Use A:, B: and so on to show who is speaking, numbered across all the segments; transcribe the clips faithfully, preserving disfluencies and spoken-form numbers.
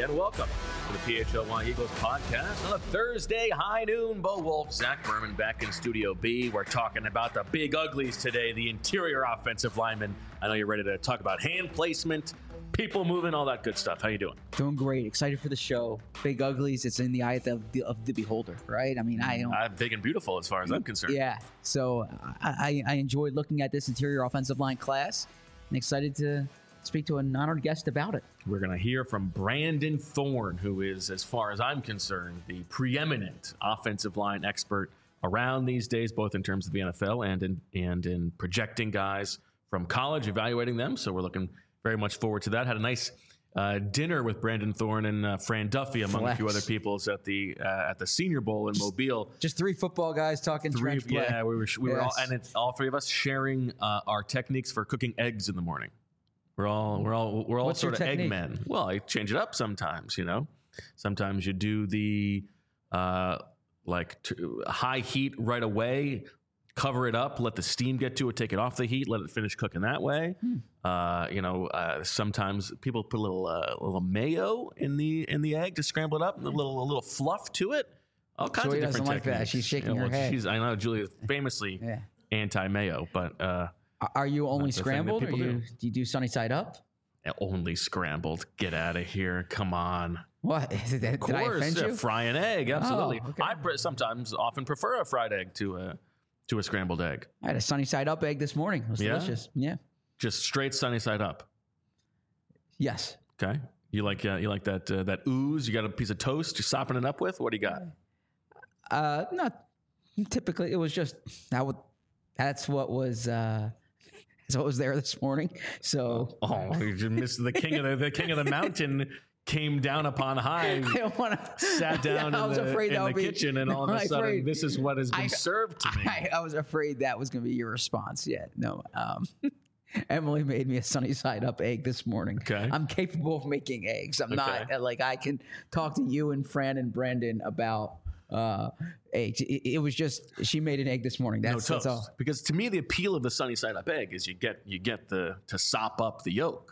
A: and welcome to the P H L Y Eagles podcast on a Thursday high noon. Bo Wolf, Zach Berman back in Studio B. We're talking about the big uglies today, the interior offensive linemen. I know you're ready to talk about hand placement, people moving, all that good stuff. How you doing?
B: Doing great. Excited for the show. Big uglies. It's in the eye of the, of the beholder, right? I mean, I don't.
A: I'm big and beautiful as far as I'm concerned.
B: Yeah. So I, I, I enjoyed looking at this interior offensive line class and excited to speak to an honored guest about it.
A: We're going to hear from Brandon Thorn, who is, as far as I'm concerned, the preeminent offensive line expert around these days, both in terms of the N F L and in, and in projecting guys from college, evaluating them. So we're looking very much forward to that. Had a nice uh, dinner with Brandon Thorn and uh, Fran Duffy, among
B: Flex.
A: a few other people, at the uh, at the Senior Bowl in
B: just,
A: Mobile.
B: Just three football guys talking
A: three,
B: trench play.
A: Yeah, we were, we were
B: yes.
A: all, and it's all three of us sharing uh, our techniques for cooking eggs in the morning. We're all we're all we're all
B: What's
A: sort of
B: your
A: egg
B: technique?
A: men. Well, I change it up sometimes, you know. Sometimes you do the uh, like t- high heat right away, cover it up, let the steam get to it, take it off the heat, let it finish cooking that way. Hmm. Uh, you know, uh, sometimes people put a little uh, a little mayo in the in the egg to scramble it up, a little a little fluff to it. All kinds
B: Joy
A: of different
B: doesn't like
A: techniques.
B: that. She's shaking
A: You know,
B: her
A: well,
B: head.
A: She's, I know Julia is famously
B: Yeah.
A: anti-mayo, but uh,
B: Are you only
A: That's the thing that
B: scrambled or
A: people
B: you,
A: do.
B: do you do sunny side up?
A: only scrambled. Get out of here! Come on.
B: What? Did, did
A: Of
B: I
A: course,
B: offend
A: uh,
B: you?
A: fry an egg. Absolutely.
B: Oh, okay.
A: I pre- sometimes often prefer a fried egg to a to a scrambled egg.
B: I had a sunny side up egg this morning. It was
A: Yeah?
B: delicious. Yeah.
A: Just straight sunny side up.
B: Yes.
A: Okay. You like uh, you like that uh, that ooze? You got a piece of toast you're sopping it up with? What do you got?
B: Uh, not typically. It was just that. Would, that's what was. Uh, that's what was there this morning. So
A: Oh, you just missed the king of the, the king of the mountain came down upon high,
B: I don't want to.
A: sat down
B: I
A: in
B: was
A: the,
B: afraid
A: in
B: that
A: the
B: would be-
A: kitchen, and all of a
B: I'm
A: sudden,
B: afraid-
A: this is what has been
B: I-
A: served to me.
B: I, I was afraid that was going to be your response. Yet no. Um, Emily made me a sunny side up egg this morning.
A: Okay.
B: I'm capable of making eggs. I'm not
A: Okay.
B: like I can talk to you and Fran and Brandon about uh, eggs. It, it was just she made an egg this morning.
A: No
B: That's,
A: toast.
B: that's all.
A: Because to me, the appeal of the sunny side up egg is you get you get the to sop up the yolk.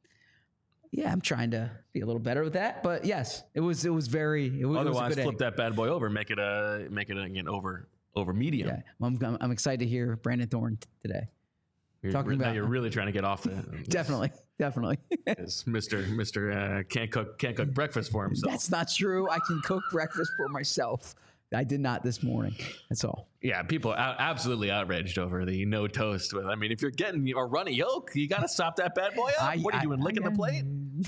B: Yeah, I'm trying to be a little better with that, but yes, it was it was very. It was,
A: Otherwise,
B: it was a good
A: flip
B: egg.
A: that bad boy over, and make it a make it a, again over over medium.
B: Yeah, well, I'm, I'm excited to hear Brandon Thorn t- today.
A: You're,
B: Talking
A: now
B: about-
A: you're really trying to get off the
B: Definitely, definitely.
A: As Mister Mister Uh, can't cook can't cook breakfast for himself.
B: That's not true. I can cook breakfast for myself. I did not this morning. That's all.
A: Yeah, people are out, absolutely outraged over the no toast. With I mean, if you're getting a runny yolk, you got to sop that bad boy up.
B: I-
A: what are you
B: I-
A: doing, licking
B: I-
A: the plate?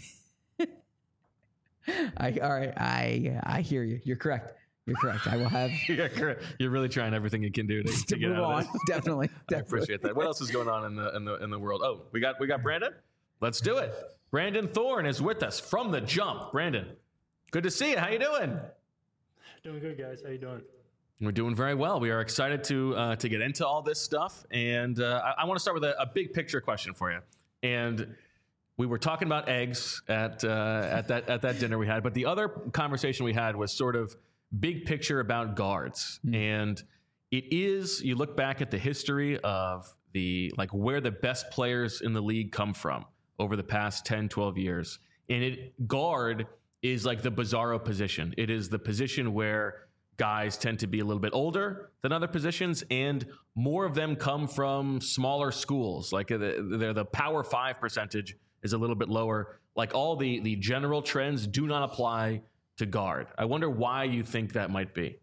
B: I all right. I I hear you. You're correct. You're correct. I will have
A: You're, correct. You're really trying everything you can do to, to,
B: to
A: get
B: move
A: out
B: on.
A: of this.
B: Definitely,
A: I
B: definitely.
A: appreciate that. What else is going on in the in the in the world? Oh, we got we got Brandon. Let's do it. Brandon Thorn is with us from the jump. Brandon, good to see you. How you doing?
C: Doing good, guys. How you doing?
A: We're doing very well. We are excited to uh, to get into all this stuff, and uh, I, I want to start with a, a big picture question for you. And we were talking about eggs at uh, at that at that dinner we had, but the other conversation we had was sort of big picture about guards, mm. and it is you look back at the history of the like where the best players in the league come from over the past ten, twelve years, and it guard is like the bizarro position. It is the position where guys tend to be a little bit older than other positions, and more of them come from smaller schools. Like they're the Power Five percentage is a little bit lower. Like all the the general trends do not apply to guard. I wonder why you think that might be.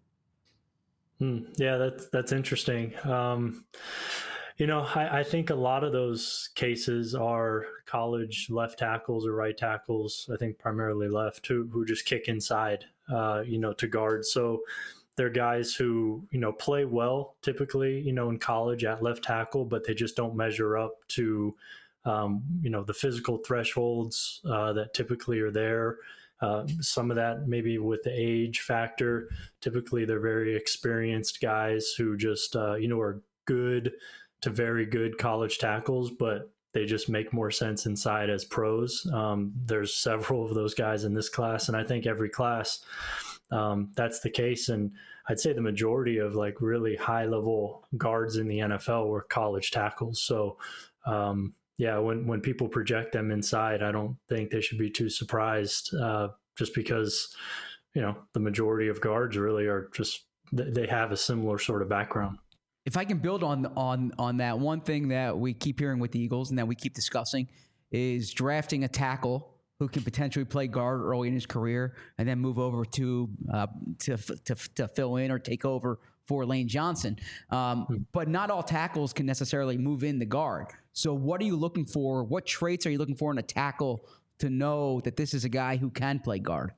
C: Hmm. Yeah, that's that's interesting. Um, you know, I, I think a lot of those cases are college left tackles or right tackles. I think primarily left who who just kick inside. Uh, you know, to guard. So they're guys who, you know, play well typically, you know, in college at left tackle, but they just don't measure up to, um, you know, the physical thresholds uh, that typically are there. Uh, some of that maybe with the age factor. Typically, they're very experienced guys who just, uh, you know, are good to very good college tackles, but they just make more sense inside as pros. Um, there's several of those guys in this class, and I think every class um, that's the case. And I'd say the majority of like really high level guards in the N F L were college tackles. So um, yeah, when when people project them inside, I don't think they should be too surprised. Uh, just because, you know, the majority of guards really are just, they have a similar sort of background.
B: If I can build on on on that, one thing that we keep hearing with the Eagles and that we keep discussing is drafting a tackle who can potentially play guard early in his career and then move over to uh, to, to to fill in or take over for Lane Johnson. Um, hmm. But not all tackles can necessarily move in the guard. So what are you looking for? What traits are you looking for in a tackle to know that this is a guy who can play guard?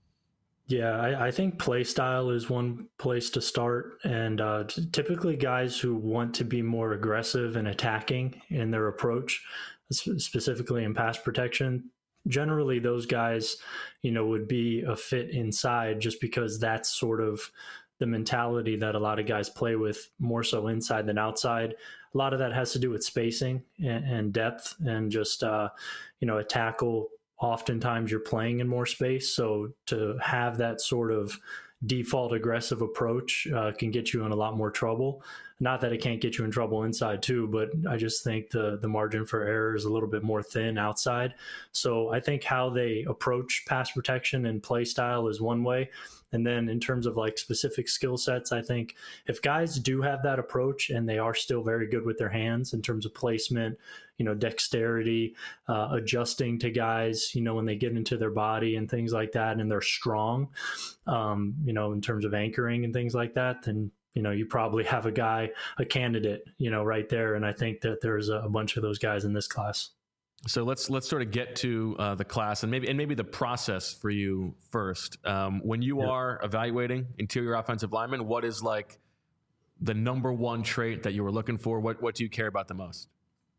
C: Yeah, I, I think play style is one place to start. And uh, t- typically guys who want to be more aggressive and attacking in their approach, specifically in pass protection, generally those guys, you know, would be a fit inside just because that's sort of the mentality that a lot of guys play with, more so inside than outside. A lot of that has to do with spacing and, and depth and just, uh, you know, a tackle. Oftentimes you're playing in more space. So to have that sort of default aggressive approach uh, can get you in a lot more trouble. Not that it can't get you in trouble inside too, but I just think the the margin for error is a little bit more thin outside. So I think how they approach pass protection and play style is one way. And then in terms of like specific skill sets, I think if guys do have that approach and they are still very good with their hands in terms of placement, you know, dexterity, uh, adjusting to guys, you know, when they get into their body and things like that, and they're strong, um, you know, in terms of anchoring and things like that, then, you know, you probably have a guy, a candidate, you know, right there. And I think that there's a bunch of those guys in this class.
A: So let's let's sort of get to uh, the class and maybe and maybe the process for you first. Um, when you yeah. are evaluating interior offensive linemen, what is like the number one trait that you were looking for? What what do you care about the most?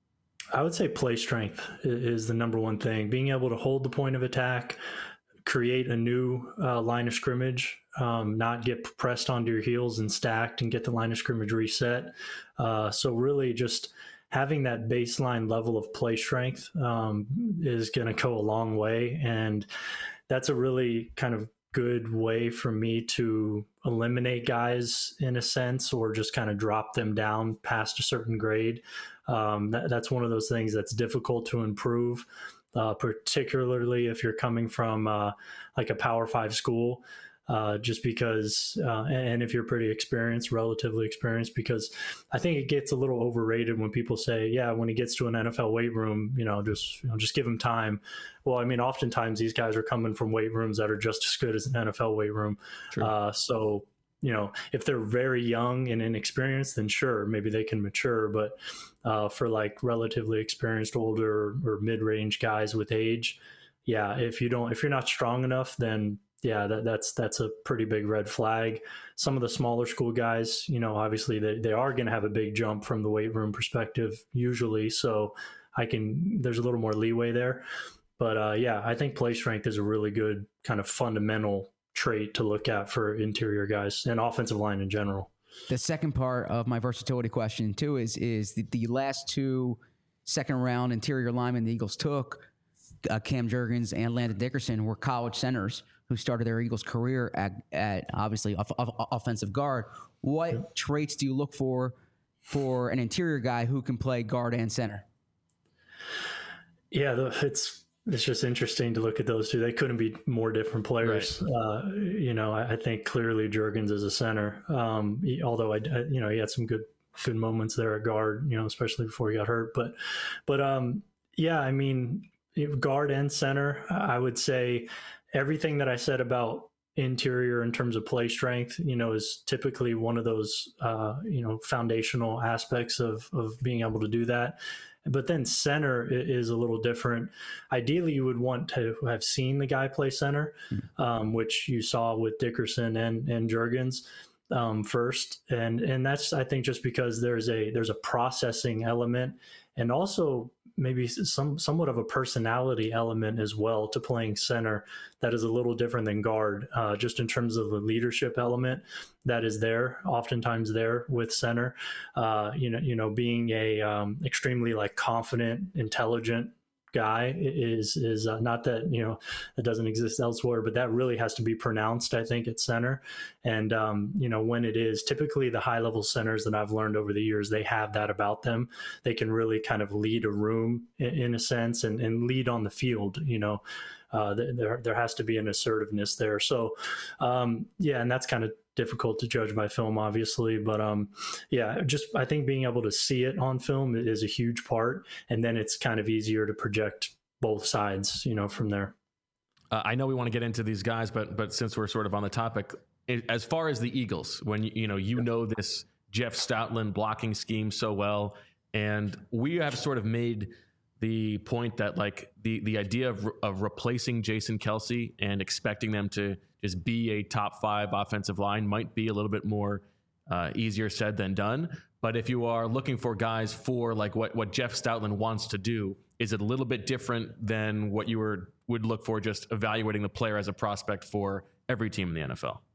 C: I would say play strength is the number one thing. Being able to hold the point of attack, create a new uh, line of scrimmage, um, not get pressed onto your heels and stacked and get the line of scrimmage reset. Uh, so really just having that baseline level of play strength um, is going to go a long way. And that's a really kind of good way for me to eliminate guys in a sense, or just kind of drop them down past a certain grade. Um, that, that's one of those things that's difficult to improve, uh, particularly if you're coming from uh, like a Power Five school. Uh, just because, uh, and if you're pretty experienced, relatively experienced, because I think it gets a little overrated when people say, yeah, when he gets to an N F L weight room, you know, just, you know, just give him time. Well, I mean, oftentimes these guys are coming from weight rooms that are just as good as an N F L weight room. Uh, so, you know, if they're very young and inexperienced, then sure, maybe they can mature. But uh, for like relatively experienced, older or mid-range guys with age, yeah, if you don't, if you're not strong enough, then yeah, that, that's that's a pretty big red flag. Some of the smaller school guys, you know, obviously they, they are going to have a big jump from the weight room perspective usually. So I can, there's a little more leeway there. But uh, yeah, I think play strength is a really good kind of fundamental trait to look at for interior guys and offensive line in general.
B: The second part of my versatility question too is, is the, the last two second round interior linemen the Eagles took, uh, Cam Jurgens and Landon Dickerson, were college centers who started their Eagles career at, at obviously off, off, offensive guard. What yeah. traits do you look for for an interior guy who can play guard and center?
C: Yeah, the, it's it's just interesting to look at those two. They couldn't be more different players. Right. Uh, you know, I, I think clearly Jurgens is a center. Um, he, although I, I, you know, he had some good good moments there at guard. You know, especially before he got hurt. But but um, yeah, I mean, guard and center, I would say. Everything that I said about interior in terms of play strength, you know, is typically one of those, uh, you know, foundational aspects of, of being able to do that. But then center is a little different. Ideally, you would want to have seen the guy play center, mm-hmm. um, which you saw with Dickerson and, and Jurgens um, first. And, and that's, I think, just because there's a, there's a processing element and also maybe some somewhat of a personality element as well to playing center that is a little different than guard, uh, just in terms of the leadership element that is there, oftentimes there with center. Uh, you know, you know, being a um, extremely like confident, intelligent guy is is uh, not that, you know, it doesn't exist elsewhere, but that really has to be pronounced, I think, at center. And um, you know, when it is, typically the high level centers that I've learned over the years, they have that about them. They can really kind of lead a room in, in a sense, and, and lead on the field. You know, uh, there there has to be an assertiveness there. So um, yeah, and that's kind of difficult to judge by film, obviously, but um, yeah, just I think being able to see it on film is a huge part, and then it's kind of easier to project both sides, you know, from there.
A: Uh, I know we want to get into these guys, but but since we're sort of on the topic, it, as far as the Eagles, when you, you know you know this Jeff Stoutland blocking scheme so well, and we have sort of made the point that like the the idea of of replacing Jason Kelce and expecting them to just be a top five offensive line might be a little bit more uh, easier said than done. But if you are looking for guys for like what, what Jeff Stoutland wants to do, is it a little bit different than what you were, would look for just evaluating the player as a prospect for every team in the N F L?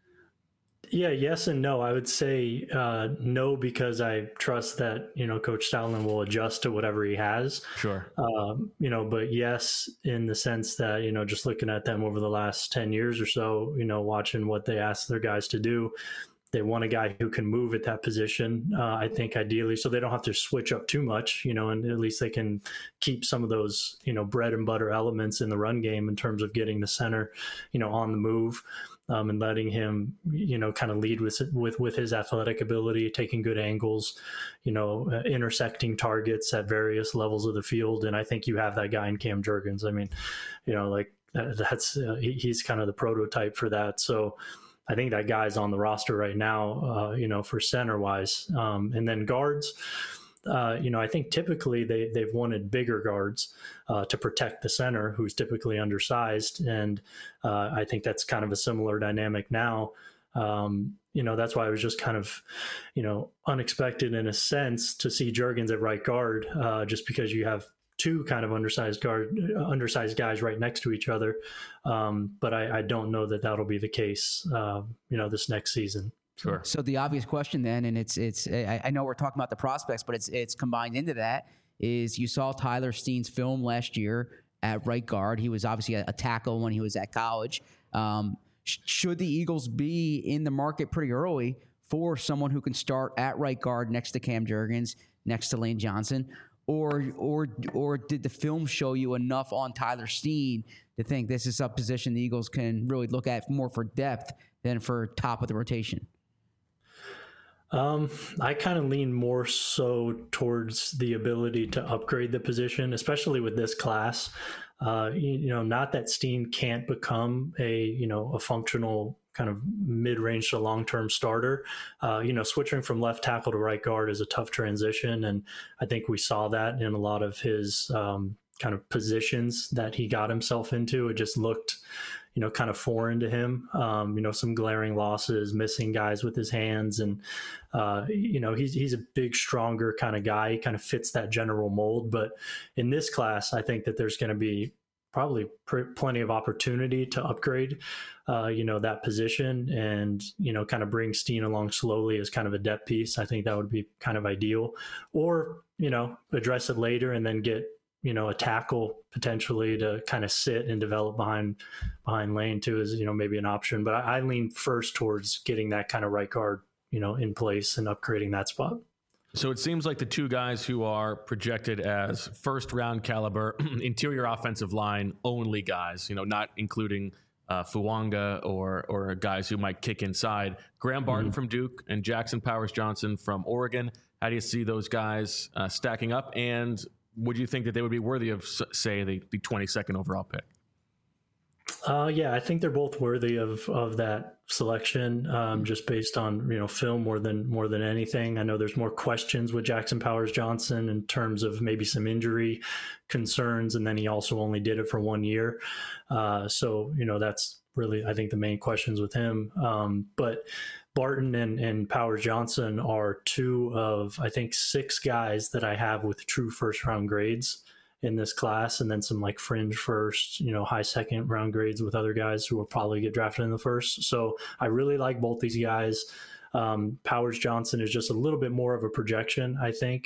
C: Yeah, yes and no. I would say uh, no, because I trust that, you know, Coach Stoutland will adjust to whatever he has.
A: Sure.
C: Um, you know, but yes, in the sense that, you know, just looking at them over the last ten years or so, you know, watching what they ask their guys to do, they want a guy who can move at that position, uh, I think, ideally, so they don't have to switch up too much, you know, and at least they can keep some of those, you know, bread and butter elements in the run game in terms of getting the center, you know, on the move. Um, and letting him, you know, kind of lead with with with his athletic ability, taking good angles, you know, uh, intersecting targets at various levels of the field. And I think you have that guy in Cam Jurgens. I mean, you know, like uh, that's uh, he, he's kind of the prototype for that. So I think that guy's on the roster right now, uh, you know, for center wise. Um, and then guards. Uh, you know, I think typically they, they've wanted bigger guards uh, to protect the center, who's typically undersized. And uh, I think that's kind of a similar dynamic now. Um, you know, that's why it was just kind of, you know, unexpected in a sense to see Jurgens at right guard, uh, just because you have two kind of undersized guard, undersized guys right next to each other. Um, but I, I don't know that that'll be the case, uh, you know, this next season.
A: Sure.
B: So the obvious question then, and it's it's I, I know we're talking about the prospects, but it's it's combined into that, is you saw Tyler Steen's film last year at right guard. He was obviously a, a tackle when he was at college. Um, sh- should the Eagles be in the market pretty early for someone who can start at right guard next to Cam Jurgens, next to Lane Johnson, or or or did the film show you enough on Tyler Steen to think this is a position the Eagles can really look at more for depth than for top of the rotation?
C: Um, I kind of lean more so towards the ability to upgrade the position, especially with this class. Uh, you, you know, not that Steen can't become a, you know, a functional kind of mid-range to long-term starter. Uh, you know, switching from left tackle to right guard is a tough transition. And I think we saw that in a lot of his um, kind of positions that he got himself into. It just looked, you know, kind of foreign to him. Um, you know, some glaring losses, missing guys with his hands. And, uh, you know, he's, he's a big, stronger kind of guy. He kind of fits that general mold. But in this class, I think that there's going to be probably pr- plenty of opportunity to upgrade, uh, you know, that position and, you know, kind of bring Steen along slowly as kind of a depth piece. I think that would be kind of ideal. Or, you know, address it later and then get, you know, a tackle potentially to kind of sit and develop behind behind Lane too is, you know, maybe an option. But I, I lean first towards getting that kind of right guard, you know, in place and upgrading that spot.
A: So it seems like the two guys who are projected as first round caliber interior offensive line only guys, you know, not including uh, Fuanga or or guys who might kick inside. Graham Barton mm-hmm. from Duke and Jackson Powers Johnson from Oregon. How do you see those guys uh, stacking up? And would you think that they would be worthy of, say, the, the twenty-second overall pick?
C: Uh, yeah, I think they're both worthy of of that selection, um, just based on, you know, film more than more than anything. I know there's more questions with Jackson Powers Johnson in terms of maybe some injury concerns, and then he also only did it for one year. Uh, so, you know, that's really, I think, the main questions with him. Um, but Barton and, and Powers Johnson are two of, I think, six guys that I have with true first round grades in this class, and then some like fringe first, you know, high second round grades with other guys who will probably get drafted in the first. So I really like both these guys. Um, Powers Johnson is just a little bit more of a projection, I think.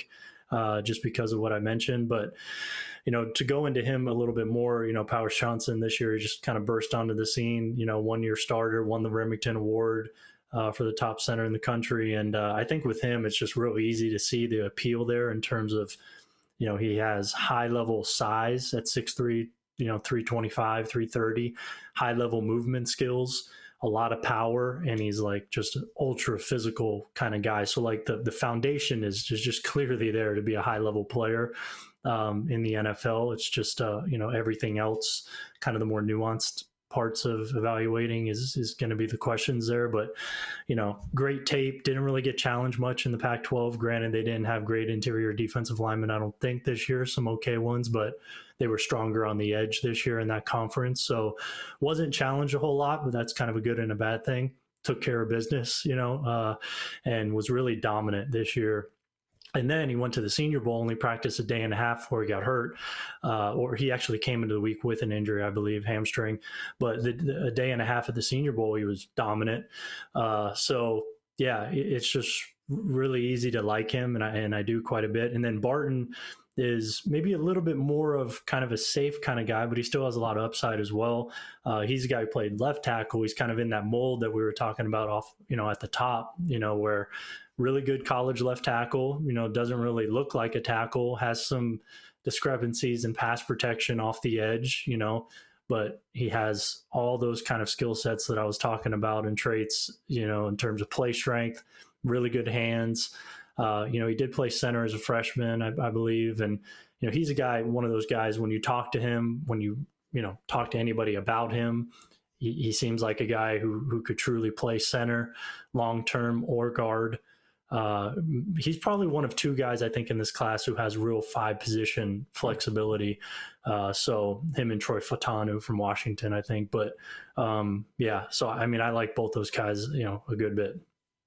C: uh, just because of what I mentioned. But, you know, to go into him a little bit more, you know, Powers Johnson this year, he just kind of burst onto the scene, you know, one year starter, won the Remington Award uh, for the top center in the country. And uh, I think with him, it's just real easy to see the appeal there in terms of, you know, he has high level size at six three, you know, three twenty-five, three thirty, high level movement skills, a lot of power, and he's like just an ultra physical kind of guy. So like the, the foundation is, is just clearly there to be a high level player um, in the N F L. It's just, uh, you know, everything else, kind of the more nuanced parts of evaluating is, is going to be the questions there. But, you know, great tape, didn't really get challenged much in the Pac twelve. Granted, they didn't have great interior defensive linemen, I don't think, this year, some okay ones, but they were stronger on the edge this year in that conference. So wasn't challenged a whole lot, but that's kind of a good and a bad thing. Took care of business, you know, uh, and was really dominant this year. And then he went to the Senior Bowl, only practiced a day and a half before he got hurt, uh, or he actually came into the week with an injury, I believe, hamstring. But the, the, a day and a half at the Senior Bowl, he was dominant. Uh, so, yeah, it, it's just really easy to like him, and I, and I do quite a bit. And then Barton is maybe a little bit more of kind of a safe kind of guy, but he still has a lot of upside as well. Uh, he's a guy who played left tackle. He's kind of in that mold that we were talking about off, you know, at the top, you know, where really good college left tackle, you know, doesn't really look like a tackle, has some discrepancies in pass protection off the edge, you know, but he has all those kind of skill sets that I was talking about and traits, you know, in terms of play strength, really good hands. Uh, you know, he did play center as a freshman, I, I believe. And, you know, he's a guy, one of those guys, when you talk to him, when you, you know, talk to anybody about him, he, he seems like a guy who, who could truly play center long-term or guard. Uh, he's probably one of two guys, I think, in this class who has real five position flexibility. Uh, so him and Troy Fautanu from Washington, I think. But um, yeah, so I mean, I like both those guys, you know, a good bit.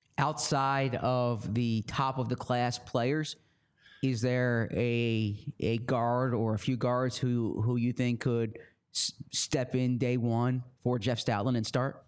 B: Outside of the top of the class players, is there a a guard or a few guards who who you think could s- step in day one for Jeff Stoutland and start?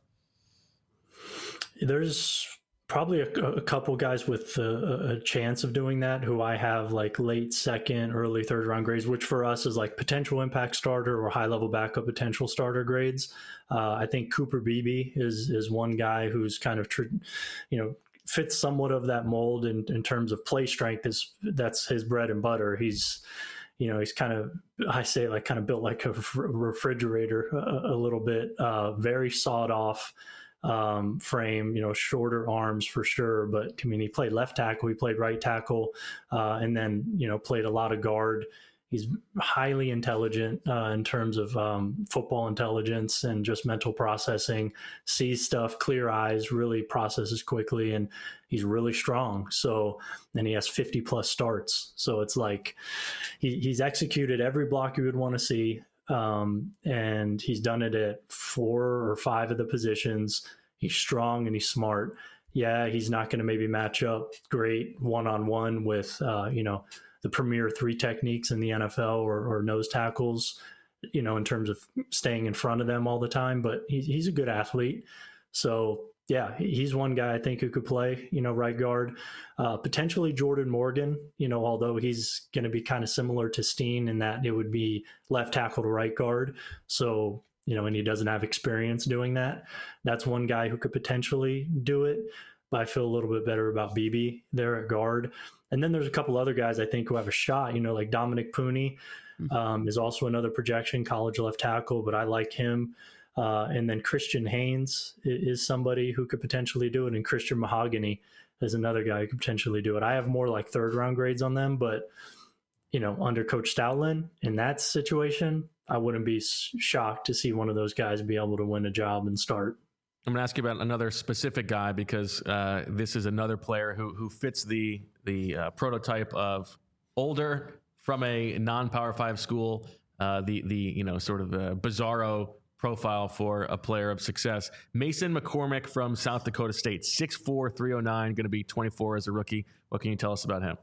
C: There's probably a, a couple guys with a, a chance of doing that who I have like late second, early third round grades, which for us is like potential impact starter or high level backup potential starter grades. Uh, I think Cooper Beebe is is one guy who's kind of, tr- you know, fits somewhat of that mold in, in terms of play strength. Is that's his bread and butter. He's, you know, he's kind of, I say like kind of built like a refrigerator a, a little bit, uh, very sawed off um, frame, you know, shorter arms for sure. But I mean, he played left tackle, he played right tackle, uh, and then, you know, played a lot of guard. He's highly intelligent uh, in terms of um, football intelligence and just mental processing, sees stuff, clear eyes, really processes quickly, and he's really strong. So, and he has fifty plus starts. So it's like he, he's executed every block you would want to see. Um, and he's done it at four or five of the positions. He's strong and he's smart. Yeah, he's not going to maybe match up great one-on-one with, uh, you know, the premier three techniques in the N F L or, or nose tackles, you know, in terms of staying in front of them all the time, but he, he's a good athlete. So yeah, he's one guy I think who could play, you know, right guard, uh, potentially Jordan Morgan, you know, although he's going to be kind of similar to Steen in that it would be left tackle to right guard. So, you know, and he doesn't have experience doing that. That's one guy who could potentially do it, but I feel a little bit better about B B there at guard. And then there's a couple other guys I think who have a shot, you know, like Dominic Pooney um, is also another projection, college left tackle, but I like him. Uh, and then Christian Haynes is somebody who could potentially do it. And Christian Mahogany is another guy who could potentially do it. I have more like third round grades on them, but, you know, under Coach Stoutland in that situation, I wouldn't be shocked to see one of those guys be able to win a job and start.
A: I'm going to ask you about another specific guy because uh, this is another player who who fits the the uh, prototype of older from a non-Power Five school, uh, the the you know sort of the bizarro profile for a player of success. Mason McCormick from South Dakota State, six four, three oh nine, going to be twenty-four as a rookie. What can you tell us about him?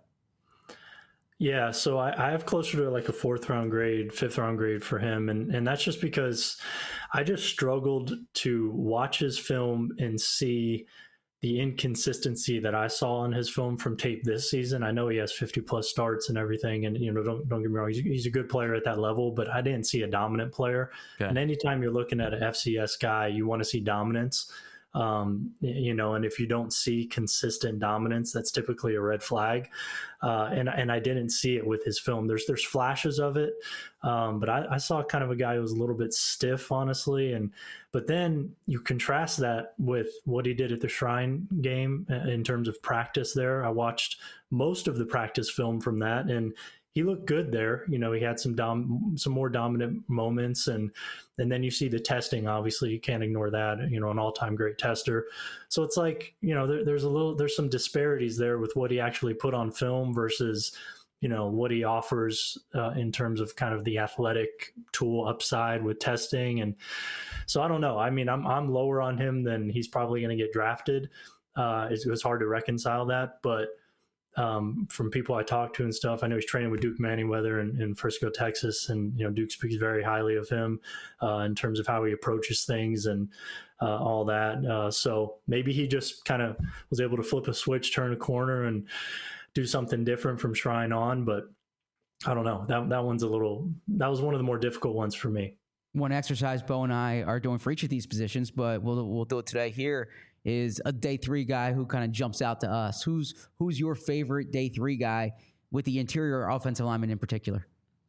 C: Yeah, so I, I have closer to like a fourth round grade, fifth round grade for him. And, and that's just because I just struggled to watch his film and see the inconsistency that I saw in his film from tape this season. I know he has fifty plus starts and everything, and you know, don't don't get me wrong, he's, he's a good player at that level, but I didn't see a dominant player. Okay. And anytime you're looking at an F C S guy, you want to see dominance. Um, you know, and if you don't see consistent dominance, that's typically a red flag. Uh, and and I didn't see it with his film. There's there's flashes of it, um, but I, I saw kind of a guy who was a little bit stiff, honestly. And but then you contrast that with what he did at the Shrine game in terms of practice there. I watched most of the practice film from that, and he looked good there. You know, he had some dom- some more dominant moments, and and then you see the testing. Obviously, you can't ignore that. You know, an all-time great tester. So it's like, you know, there, there's a little there's some disparities there with what he actually put on film versus, you know, what he offers uh, in terms of kind of the athletic tool upside with testing. And so I don't know. I mean, I'm I'm lower on him than he's probably going to get drafted. Uh, it was hard to reconcile that, but. Um, from people I talked to and stuff, I know he's training with Duke Manyweather in, in Frisco, Texas, and you know Duke speaks very highly of him uh, in terms of how he approaches things and uh, all that. Uh, so maybe he just kind of was able to flip a switch, turn a corner, and do something different from Shrine on. But I don't know. That that one's a little. That was one of the more difficult ones for me.
B: One exercise Bo and I are doing for each of these positions, but we'll we'll do it today here. Is a day three guy who kind of jumps out to us. Who's who's your favorite day three guy with the interior offensive lineman in particular?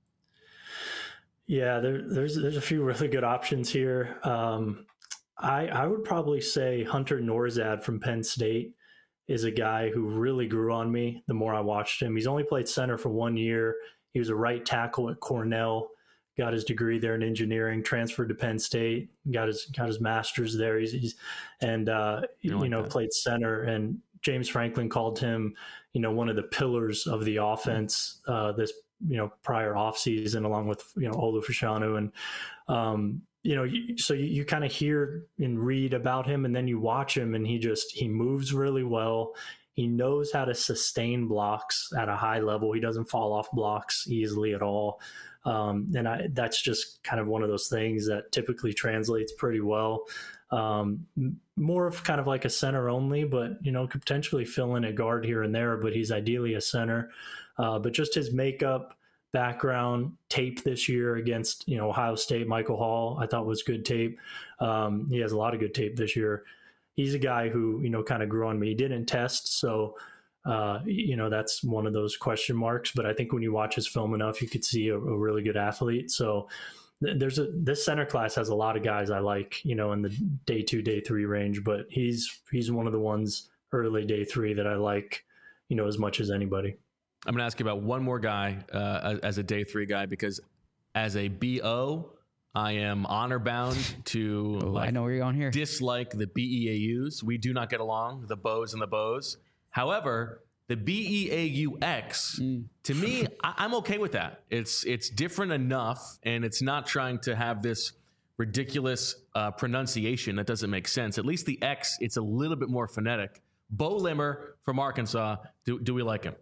C: Yeah, there, there's there's a few really good options here. Um, I I would probably say Hunter Nourzad from Penn State is a guy who really grew on me the more I watched him. He's only played center for one year. He was a right tackle at Cornell. Got his degree there in engineering, transferred to Penn State, got his got his master's there. He's, he's and uh, you, like you know that. played center. And James Franklin called him, you know, one of the pillars of the offense uh, this you know prior offseason, along with you know Olu Fashanu. And um, you know, you, so you, you kind of hear and read about him, and then you watch him, and he just he moves really well. He knows how to sustain blocks at a high level. He doesn't fall off blocks easily at all. Um, and I, that's just kind of one of those things that typically translates pretty well. Um, more of kind of like a center only, but, you know, could potentially fill in a guard here and there, but he's ideally a center. Uh, but just his makeup, background, tape this year against, you know, Ohio State, Michael Hall, I thought was good tape. Um, he has a lot of good tape this year. He's a guy who, you know, kind of grew on me. He didn't test, so Uh, you know, that's one of those question marks, but I think when you watch his film enough, you could see a, a really good athlete. So th- there's a, this center class has a lot of guys I like, you know, in the day two, day three range, but he's, he's one of the ones early day three that I like, you know, as much as anybody.
A: I'm going to ask you about one more guy uh, as a day three guy, because as a B O, I am honor bound to
B: oh,
A: like,
B: I know where you're going here.
A: dislike the B E A Us. We do not get along, the Bows and the Bows. However, the B E A U X, mm. to me, I, I'm okay with that. It's it's different enough, and it's not trying to have this ridiculous uh, pronunciation that doesn't make sense. At least the X, it's a little bit more phonetic. Bo Limmer from Arkansas, do, do we like him?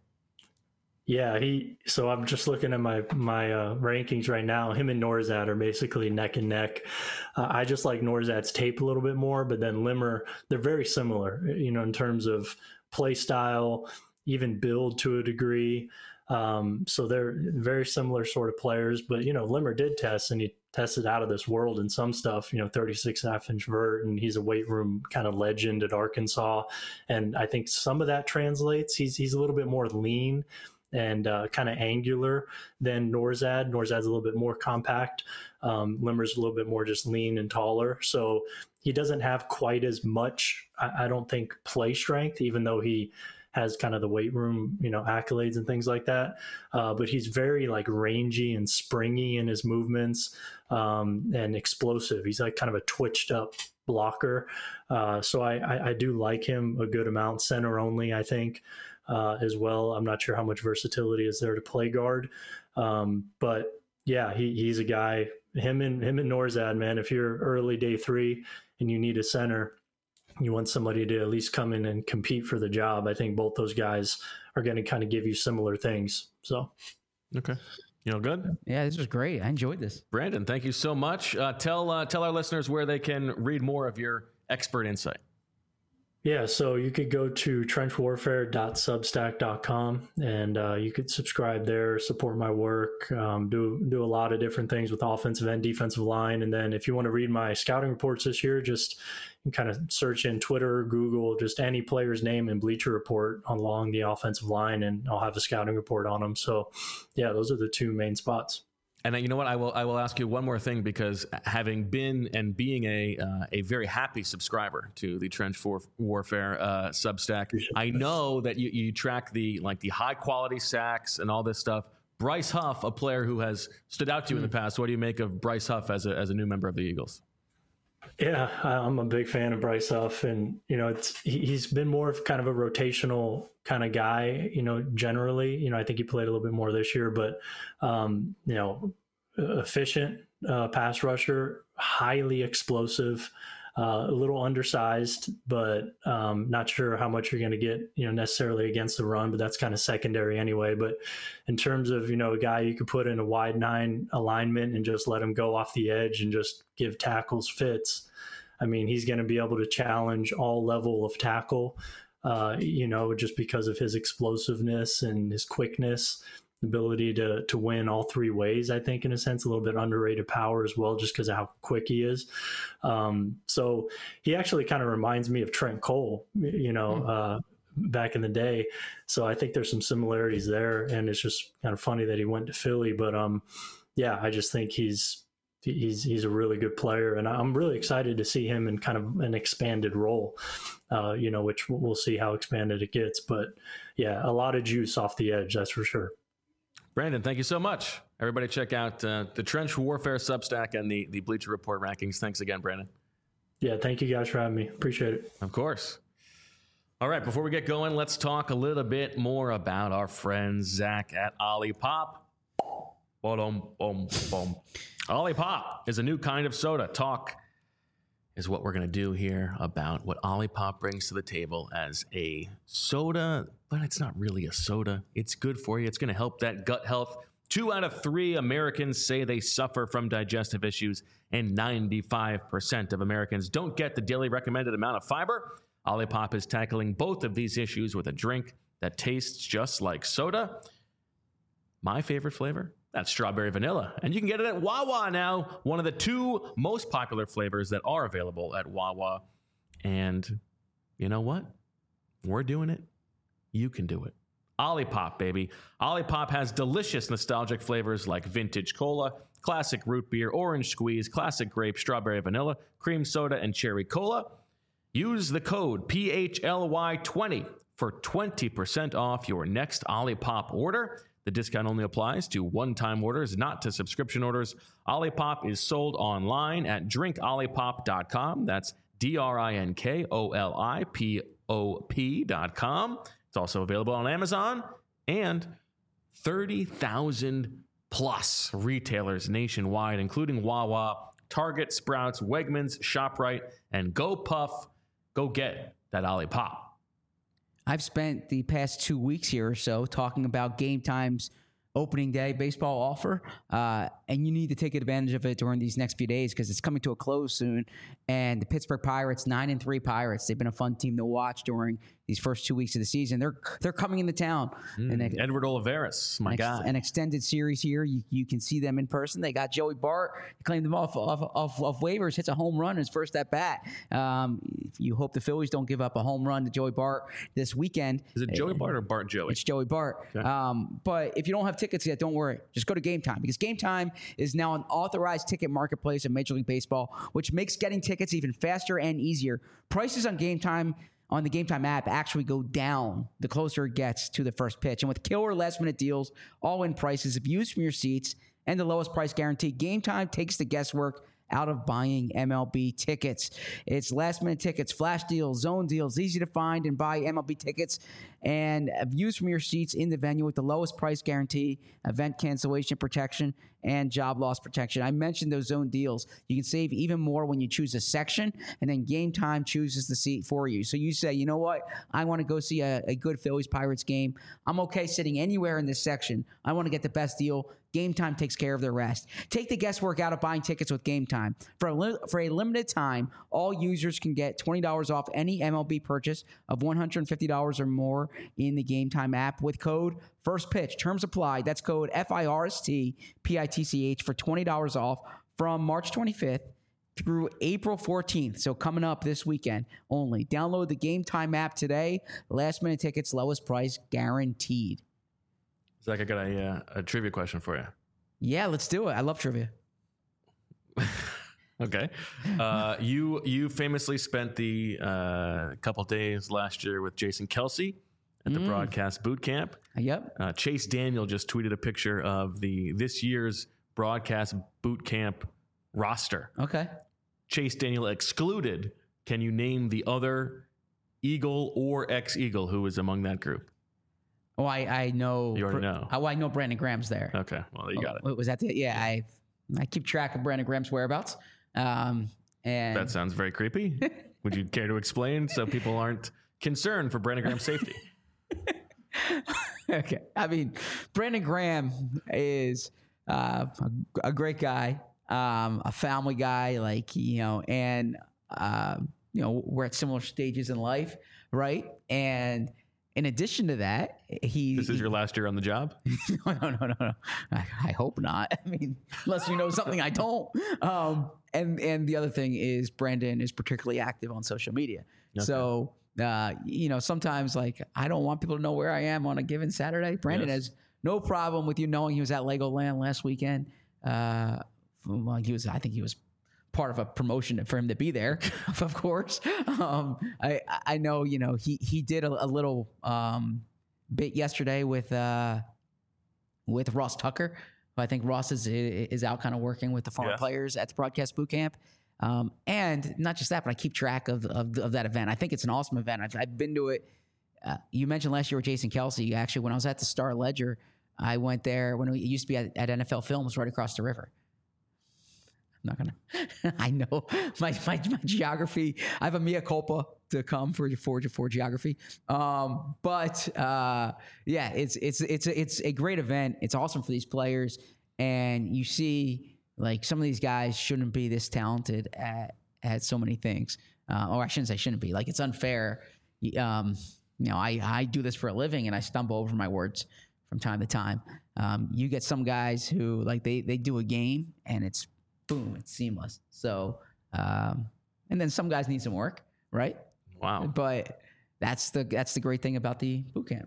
C: Yeah, he. So I'm just looking at my my uh, rankings right now. Him and Nourzad are basically neck and neck. Uh, I just like Nourzad's tape a little bit more, but then Limmer, they're very similar, you know, in terms of play style, even build to a degree. Um, so they're very similar sort of players. But, you know, Limmer did test, and he tested out of this world in some stuff, you know, thirty-six and a half inch vert, and he's a weight room kind of legend at Arkansas. And I think some of that translates. He's he's a little bit more lean and uh, kind of angular than Nourzad. Nourzad's a little bit more compact. Um, Limmer's a little bit more just lean and taller. So he doesn't have quite as much, I, I don't think, play strength, even though he has kind of the weight room, you know, accolades and things like that. Uh, but he's very like rangy and springy in his movements um, and explosive. He's like kind of a twitched up blocker. Uh, so I, I, I do like him a good amount. Center only, I think, uh, as well. I'm not sure how much versatility is there to play guard. Um, but yeah, he, he's a guy, him and him and Nourzad, man, if you're early day three and you need a center, you want somebody to at least come in and compete for the job. I think both those guys are going to kind of give you similar things. So,
A: okay. You know, good.
B: Yeah, this was great. I enjoyed this.
A: Brandon, thank you so much. Uh, tell, uh, tell our listeners where they can read more of your expert insight.
C: Yeah, so you could go to trench warfare dot substack dot com and uh, you could subscribe there, support my work, um, do do a lot of different things with offensive and defensive line. And then if you want to read my scouting reports this year, just kind of search in Twitter, Google, just any player's name and Bleacher Report along the offensive line, and I'll have a scouting report on them. So, yeah, those are the two main spots.
A: And you know what? I will I will ask you one more thing, because having been and being a uh, a very happy subscriber to the Trench for Warfare uh, Substack, I know that you, you track the like the high quality sacks and all this stuff. Bryce Huff, a player who has stood out to you mm. in the past. What do you make of Bryce Huff as a as a new member of the Eagles?
C: Yeah, I'm a big fan of Bryce Huff, and you know, it's he's been more of kind of a rotational kind of guy. You know, generally, you know, I think he played a little bit more this year, but um, you know, efficient uh, pass rusher, highly explosive, uh, a little undersized, but um, not sure how much you're going to get, you know, necessarily against the run, but that's kind of secondary anyway. But in terms of, you know, a guy you could put in a wide nine alignment and just let him go off the edge and just give tackles fits, I mean, he's going to be able to challenge all level of tackle, uh, you know, just because of his explosiveness and his quickness. Ability to to win all three ways, I think, in a sense, a little bit underrated power as well, just because of how quick he is. Um, so he actually kind of reminds me of Trent Cole, you know, mm-hmm. uh, back in the day. So I think there's some similarities there, and it's just kind of funny that he went to Philly. But um, yeah, I just think he's he's he's a really good player, and I'm really excited to see him in kind of an expanded role, uh, you know, which we'll see how expanded it gets. But yeah, a lot of juice off the edge, that's for sure.
A: Brandon, thank you so much. Everybody check out uh, the Trench Warfare Substack and the, the Bleacher Report rankings. Thanks again, Brandon.
C: Yeah, thank you guys for having me. Appreciate it.
A: Of course. All right, before we get going, let's talk a little bit more about our friend Zach at Olipop. Boom, boom, boom. Olipop is a new kind of soda. Talk is what we're going to do here about what Olipop brings to the table as a soda, but it's not really a soda. It's good for you. It's going to help that gut health. Two out of three Americans say they suffer from digestive issues, and ninety-five percent of Americans don't get the daily recommended amount of fiber. Olipop is tackling both of these issues with a drink that tastes just like soda. My favorite flavor? That's strawberry vanilla. And you can get it at Wawa now, one of the two most popular flavors that are available at Wawa. And you know what? We're doing it. You can do it. Olipop, baby. Olipop has delicious nostalgic flavors like vintage cola, classic root beer, orange squeeze, classic grape, strawberry vanilla, cream soda, and cherry cola. Use the code P H L Y twenty for twenty percent off your next Olipop order. The discount only applies to one-time orders, not to subscription orders. Olipop is sold online at drink olipop dot com. That's D R I N K O L I P O P dot com. It's also available on Amazon and thirty thousand plus retailers nationwide, including Wawa, Target, Sprouts, Wegmans, ShopRite, and Go Puff. Go get that Olipop.
B: I've spent the past two weeks here or so talking about Game Time's opening day baseball offer, uh, and you need to take advantage of it during these next few days because it's coming to a close soon. And the Pittsburgh Pirates, nine and three Pirates, they've been a fun team to watch during these first two weeks of the season. They're they're coming into town.
A: Mm, and they, Edward Olivares, my
B: an ex,
A: guy.
B: An extended series here. You, you can see them in person. They got Joey Bart. He claimed them off off, off, off waivers, hits a home run his first at bat. Um, you hope the Phillies don't give up a home run to Joey Bart this weekend.
A: Is it Joey Bart or Bart Joey?
B: It's Joey Bart. Okay. Um, but if you don't have tickets yet, don't worry. Just go to Game Time because Game Time is now an authorized ticket marketplace in Major League Baseball, which makes getting tickets even faster and easier. Prices on Game Time on the Game Time app actually go down the closer it gets to the first pitch. And with killer last-minute deals, all-in prices, views from your seats, and the lowest price guarantee, Game Time takes the guesswork out of buying M L B tickets. It's last-minute tickets, flash deals, zone deals, easy to find and buy M L B tickets, and views from your seats in the venue with the lowest price guarantee, event cancellation protection, and job loss protection. I mentioned those zone deals. You can save even more when you choose a section, and then Game Time chooses the seat for you. So you say, you know what? I want to go see a, a good Phillies-Pirates game. I'm okay sitting anywhere in this section. I want to get the best deal. Game Time takes care of the rest. Take the guesswork out of buying tickets with Game Time. For a, li- for a limited time, all users can get twenty dollars off any M L B purchase of one hundred fifty dollars or more in the Game Time app with code FIRSTPITCH. Terms apply. That's code F I R S T P I T C H for twenty dollars off from March twenty-fifth through April fourteenth. So coming up this weekend only. Download the Game Time app today. Last minute tickets, lowest price guaranteed.
A: Zach, I got a, uh, a trivia question for you.
B: Yeah, let's do it. I love trivia.
A: Okay. Uh, you you famously spent the uh, couple days last year with Jason Kelce at the
B: Mm.
A: broadcast boot camp.
B: Yep.
A: Uh, Chase Daniel just tweeted a picture of the this year's broadcast boot camp roster.
B: Okay.
A: Chase Daniel excluded. Can you name the other Eagle or ex-Eagle who was among that group?
B: Oh, I, I know.
A: You already know.
B: Oh, I know Brandon Graham's there.
A: Okay, well, you got it.
B: Oh, was that the? Yeah, I I keep track of Brandon Graham's whereabouts. Um, and
A: That sounds very creepy. Would you care to explain so people aren't concerned for Brandon Graham's safety?
B: okay. I mean, Brandon Graham is uh, a, a great guy, um, a family guy, like, you know, and, uh, you know, we're at similar stages in life, right? And in addition to that, he...
A: This is your last year on the job?
B: no, no, no, no, no. I, I hope not. I mean, unless you know something I don't. Um, and, and the other thing is Brandon is particularly active on social media.
A: Okay.
B: So... Uh, you know, sometimes like I don't want people to know where I am on a given Saturday. Brandon
A: Yes.
B: has no problem with you knowing he was at Legoland last weekend. Uh, well, he was, I think he was part of a promotion for him to be there, of course. Um, I, I know, you know, he, he did a, a little um, bit yesterday with, uh, with Ross Tucker. I think Ross is, is out kind of working with the former
A: Yes.
B: players at the broadcast boot camp. Um, and not just that, but I keep track of, of, of that event. I think it's an awesome event. I've, I've been to it. Uh, you mentioned last year with Jason Kelce. Actually, when I was at the Star Ledger, I went there when it used to be at, at N F L Films right across the river. I'm not gonna. I know my, my my geography. I have a mea culpa to come for for for geography. Um, but uh, yeah, it's it's it's a, it's a great event. It's awesome for these players, and you see. Like some of these guys shouldn't be this talented at, at so many things. Uh, or I shouldn't say shouldn't be. Like it's unfair. Um, you know, I, I do this for a living and I stumble over my words from time to time. Um, you get some guys who like they, they do a game and it's boom, it's seamless. So, um, and then some guys need some work, right?
A: Wow.
B: But that's the, that's the great thing about the boot camp.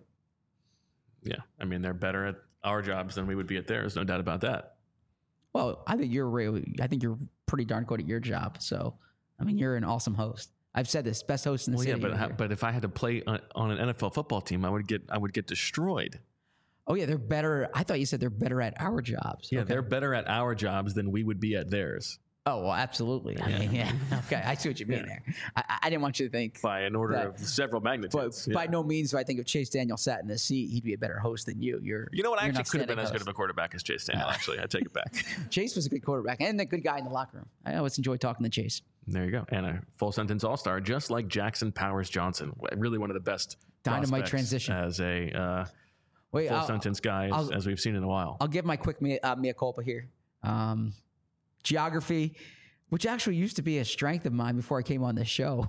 A: Yeah. I mean, they're better at our jobs than we would be at theirs. No doubt about that.
B: Well, I think you're really, I think you're pretty darn good at your job. So, I mean, you're an awesome host. I've said this, best host in the
A: Well,
B: city.
A: yeah, but
B: over
A: how,
B: here.
A: but if I had to play on, on an N F L football team, I would get I would get destroyed.
B: Oh yeah, they're better. I thought you said they're better at our jobs.
A: Yeah,
B: Okay.
A: they're better at our jobs than we would be at theirs
B: Oh well, absolutely. I mean, yeah. Okay, I see what you mean
A: Yeah.
B: there. I, I didn't want you to think.
A: by an order
B: That-
A: of several
B: But
A: magnitudes.
B: by
A: Yeah.
B: no means do I think if Chase Daniel sat in this seat, he'd be a better host than you. You're.
A: You know what? I
B: you're
A: actually
B: not
A: could have been
B: standing
A: as good
B: host.
A: of a quarterback as Chase Daniel. Actually, I take it back.
B: Chase was a good quarterback and a good guy in the locker room. I always enjoy talking to Chase.
A: There you go, and a full sentence all star, just like Jackson Powers Johnson. Really, one of the best
B: Dynamite
A: prospects
B: transition.
A: as a uh,
B: Wait,
A: full
B: I'll,
A: sentence guy as,
B: I'll-
A: as we've seen in a while.
B: I'll give my quick mea, uh, mea culpa here. Um, geography, which actually used to be a strength of mine before I came on this show.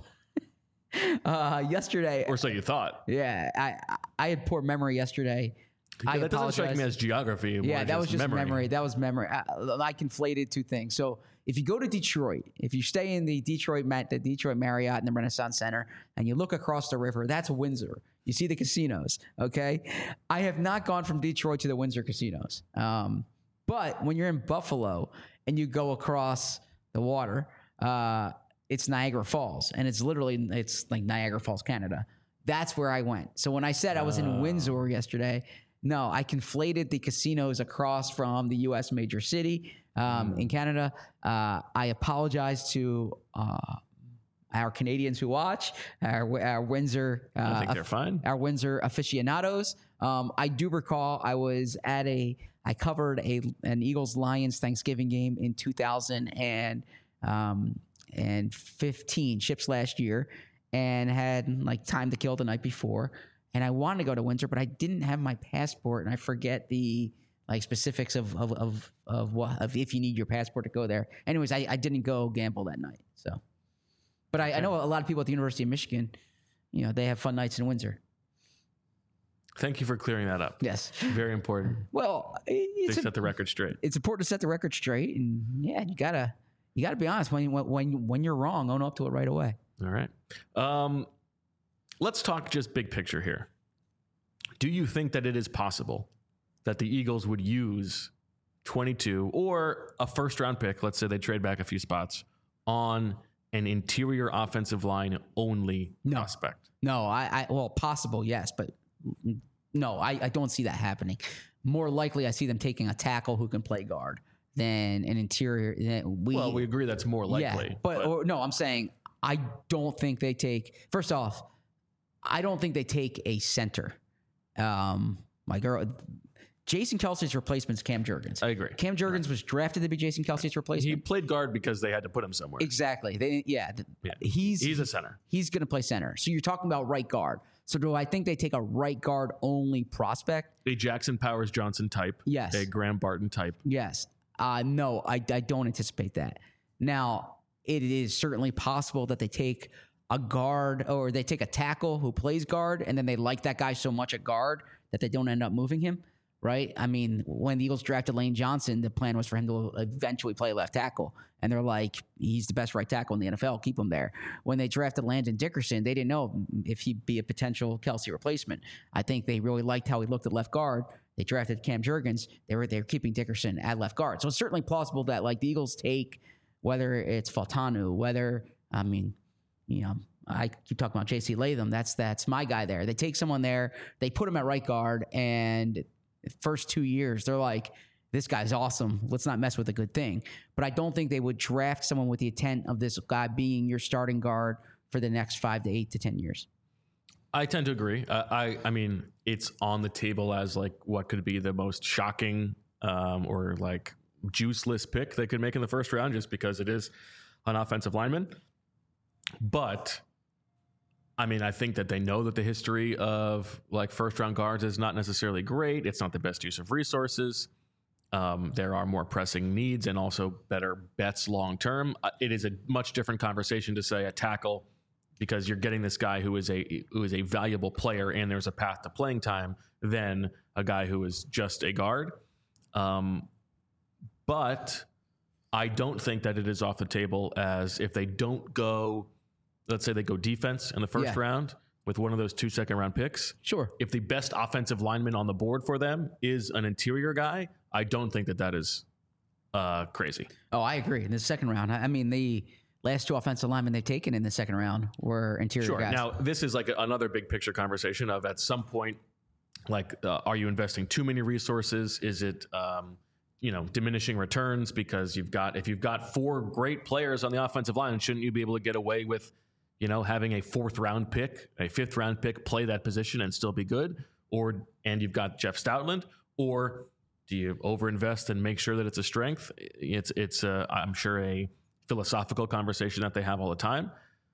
B: uh, yesterday,
A: Or so you thought.
B: yeah, I I- I had poor memory yesterday. I
A: Yeah, that doesn't strike me
B: apologize.
A: as geography.
B: Yeah,
A: more
B: that was just memory.
A: memory.
B: That was memory. I, I conflated two things. So if you go to Detroit, if you stay in the Detroit Met, the Detroit Marriott and the Renaissance Center, and you look across the river, that's Windsor. You see the casinos. Okay, I have not gone from Detroit to the Windsor casinos. Um, but when you're in Buffalo and you go across the water, uh, it's Niagara Falls, and it's literally it's like Niagara Falls, Canada. That's where I went. So when I said I was in
A: Oh.
B: Windsor yesterday. No, I conflated the casinos across from the U S major city um,
A: Mm.
B: in Canada. Uh, I apologize to uh, our Canadians who watch, our, our Windsor, uh,
A: I think they're fine.
B: our Windsor aficionados. Um, I do recall I was at a, I covered a an Eagles Lions Thanksgiving game in two thousand and um, and fifteen, ships last year, and had like time to kill the night before. And I wanted to go to Windsor, but I didn't have my passport, and I forget the like specifics of of of of what of if you need your passport to go there. Anyways, I, I didn't go gamble that night. So, but I, I know a lot of people at the University of Michigan, you know, they have fun nights in Windsor.
A: Thank you for clearing that up.
B: Yes,
A: very important.
B: Well, it's
A: they
B: a,
A: set the record straight.
B: It's important to set the record straight, and yeah, you gotta you gotta be honest when when when you're wrong, own up to it right away.
A: All right. Um, let's talk just big picture here. Do you think that it is possible that the Eagles would use twenty-two or a first round pick, let's say they trade back a few spots, on an interior offensive line only
B: no.
A: prospect?
B: No, I, I well, possible, yes, but no, I, I don't see that happening. More likely, I see them taking a tackle who can play guard than an interior. Than we,
A: well, we agree that's more likely.
B: Yeah, but, but. Or, no, I'm saying I don't think they take, first off, I don't think they take a center. Um, my girl, Jason Kelce's replacement is Cam Jurgens.
A: I agree.
B: Cam Jurgens right. was drafted to be Jason Kelce's replacement.
A: He played guard because they had to put him somewhere.
B: Exactly. They, yeah,
A: yeah.
B: He's
A: he's a center.
B: He's going to play center. So you're talking about right guard. So do I think they take a right guard only prospect?
A: A Jackson Powers Johnson type.
B: Yes.
A: A Graham Barton type.
B: Yes. Uh, no, I, I don't anticipate that. Now, it is certainly possible that they take a guard or they take a tackle who plays guard, and then they like that guy so much at guard that they don't end up moving him, right? I mean, when the Eagles drafted Lane Johnson, the plan was for him to eventually play left tackle. And they're like, he's the best right tackle in the N F L. Keep him there. When they drafted Landon Dickerson, they didn't know if he'd be a potential Kelce replacement. I think they really liked how he looked at left guard. They drafted Cam Jurgens. They were they're keeping Dickerson at left guard. So it's certainly plausible that like the Eagles take, whether it's Faltanu, whether, I mean, you know, I keep talking about J C Latham. That's that's my guy there. They take someone there, they put him at right guard, and first two years, they're like, this guy's awesome. Let's not mess with a good thing. But I don't think they would draft someone with the intent of this guy being your starting guard for the next five to eight to ten years.
A: I tend to agree. Uh, I I mean, it's on the table as like what could be the most shocking um, or like juiceless pick they could make in the first round, just because it is an offensive lineman. But I mean, I think that they know that the history of like first round guards is not necessarily great. It's not the best use of resources. Um, there are more pressing needs and also better bets long term. Uh, it is a much different conversation to say a tackle, because you're getting this guy who is a who is a valuable player and there's a path to playing time, than a guy who is just a guard. Um, but I don't think that it is off the table as if they don't go, let's say they go defense in the first
B: Yeah.
A: round with one of those two second round picks.
B: Sure.
A: If the best offensive lineman on the board for them is an interior guy, I don't think that that is uh, crazy.
B: Oh, I agree. In the second round, I I mean, the last two offensive linemen they've taken in the second round were interior
A: Sure.
B: guys.
A: Now, this is like a, another big picture conversation of at some point, like, uh, are you investing too many resources? Is it, um, you know, diminishing returns because you've got, if you've got four great players on the offensive line, shouldn't you be able to get away with, you know, having a fourth round pick, a fifth round pick, play that position and still be good? Or, and you've got Jeff Stoutland, or do you overinvest and make sure that it's a strength? It's, it's, uh, I'm sure a philosophical conversation that they have all the time.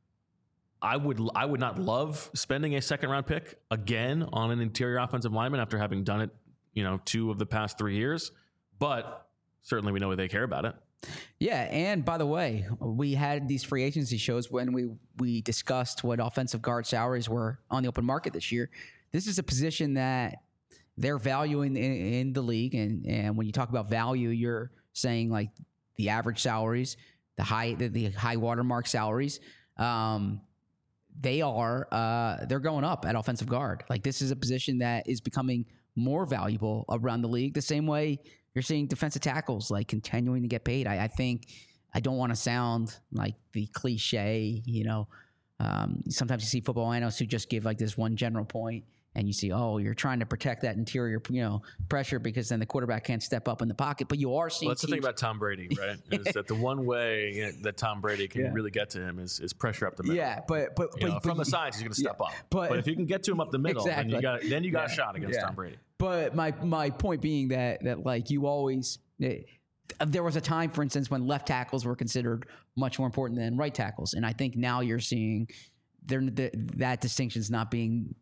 A: I would I would not love spending a second round pick again on an interior offensive lineman after having done it, you know, two of the past three years. But certainly we know they care about it.
B: Yeah, and by the way, we had these free agency shows when we we discussed what offensive guard salaries were on the open market this year. This is a position that they're valuing in, in the league, and and when you talk about value, you're saying like the average salaries, the high the, the high watermark salaries. Um, they are uh, they're going up at offensive guard. Like this is a position that is becoming more valuable around the league. The same way you're seeing defensive tackles like continuing to get paid. I, I think I don't want to sound like the cliche, you know. Um, sometimes you see football analysts who just give like this one general point, and you see, oh, you're trying to protect that interior, you know, pressure because then the quarterback can't step up in the pocket. But you are seeing.
A: Well, that's the thing about Tom Brady, right? Is that the one way you know, that Tom Brady can
B: Yeah.
A: really get to him is, is pressure up the middle.
B: Yeah, but but,
A: You
B: but
A: know,
B: but
A: from the
B: you-
A: sides, he's going to step
B: yeah,
A: up.
B: but-
A: But, if you can get to him up the middle, then
B: Exactly.
A: you got then you got
B: Yeah.
A: a shot against
B: Yeah.
A: Tom Brady.
B: But my my point being that that like you always eh, there was a time, for instance, when left tackles were considered much more important than right tackles, and I think now you're seeing there the, that distinction is not being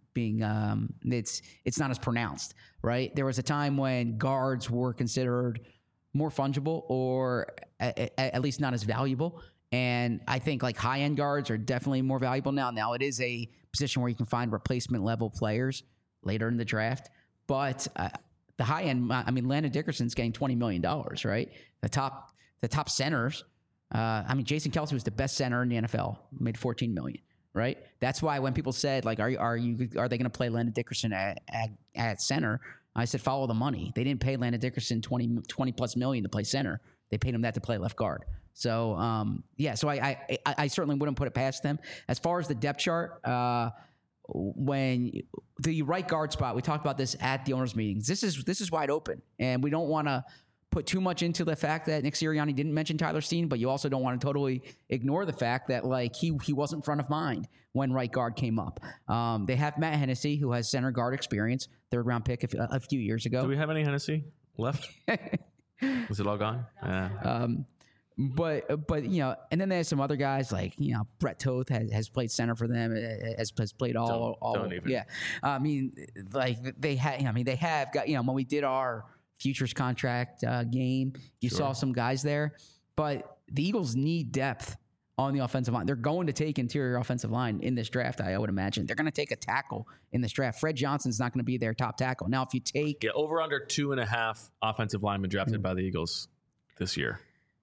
B: being um, it's it's not as pronounced, right? There was a time when guards were considered more fungible or a, a, at least not as valuable. And I think like high end guards are definitely more valuable now. Now it is a position where you can find replacement level players later in the draft, but uh, the high end, I mean, Landon Dickerson's getting twenty million dollars, right? The top, the top centers. Uh, I mean, Jason Kelce was the best center in the N F L, made fourteen million dollars. Right. That's why when people said like, are are you are they going to play Landon Dickerson at, at at center? I said follow the money. They didn't pay Landon Dickerson twenty, twenty plus million to play center. They paid him that to play left guard. So um, yeah, so I, I I I certainly wouldn't put it past them. As far as the depth chart, uh, when the right guard spot, we talked about this at the owners' meetings. This is this is wide open, and we don't want to put too much into the fact that Nick Sirianni didn't mention Tyler Steen, but you also don't want to totally ignore the fact that like he he wasn't front of mind when right guard came up. Um, they have Matt Hennessy, who has center guard experience, third round pick a, a few years ago.
A: Do we have any Hennessy left? Was it all gone? Yeah.
B: Um, but but you know, and then there's some other guys like you know Brett Toth has, has played center for them, has, has played all
A: Don't-
B: all
A: don't even.
B: yeah. I mean, like they had. I mean, they have got you know when we did our futures contract uh, game, you
A: Sure.
B: saw some guys there, but the Eagles need depth on the offensive line. They're going to take interior offensive line in this draft. I, I would imagine they're going to take a tackle in this draft. Fred Johnson's not going to be their top tackle. Now, if you take
A: Yeah, over under two and a half offensive linemen drafted by the Eagles this year.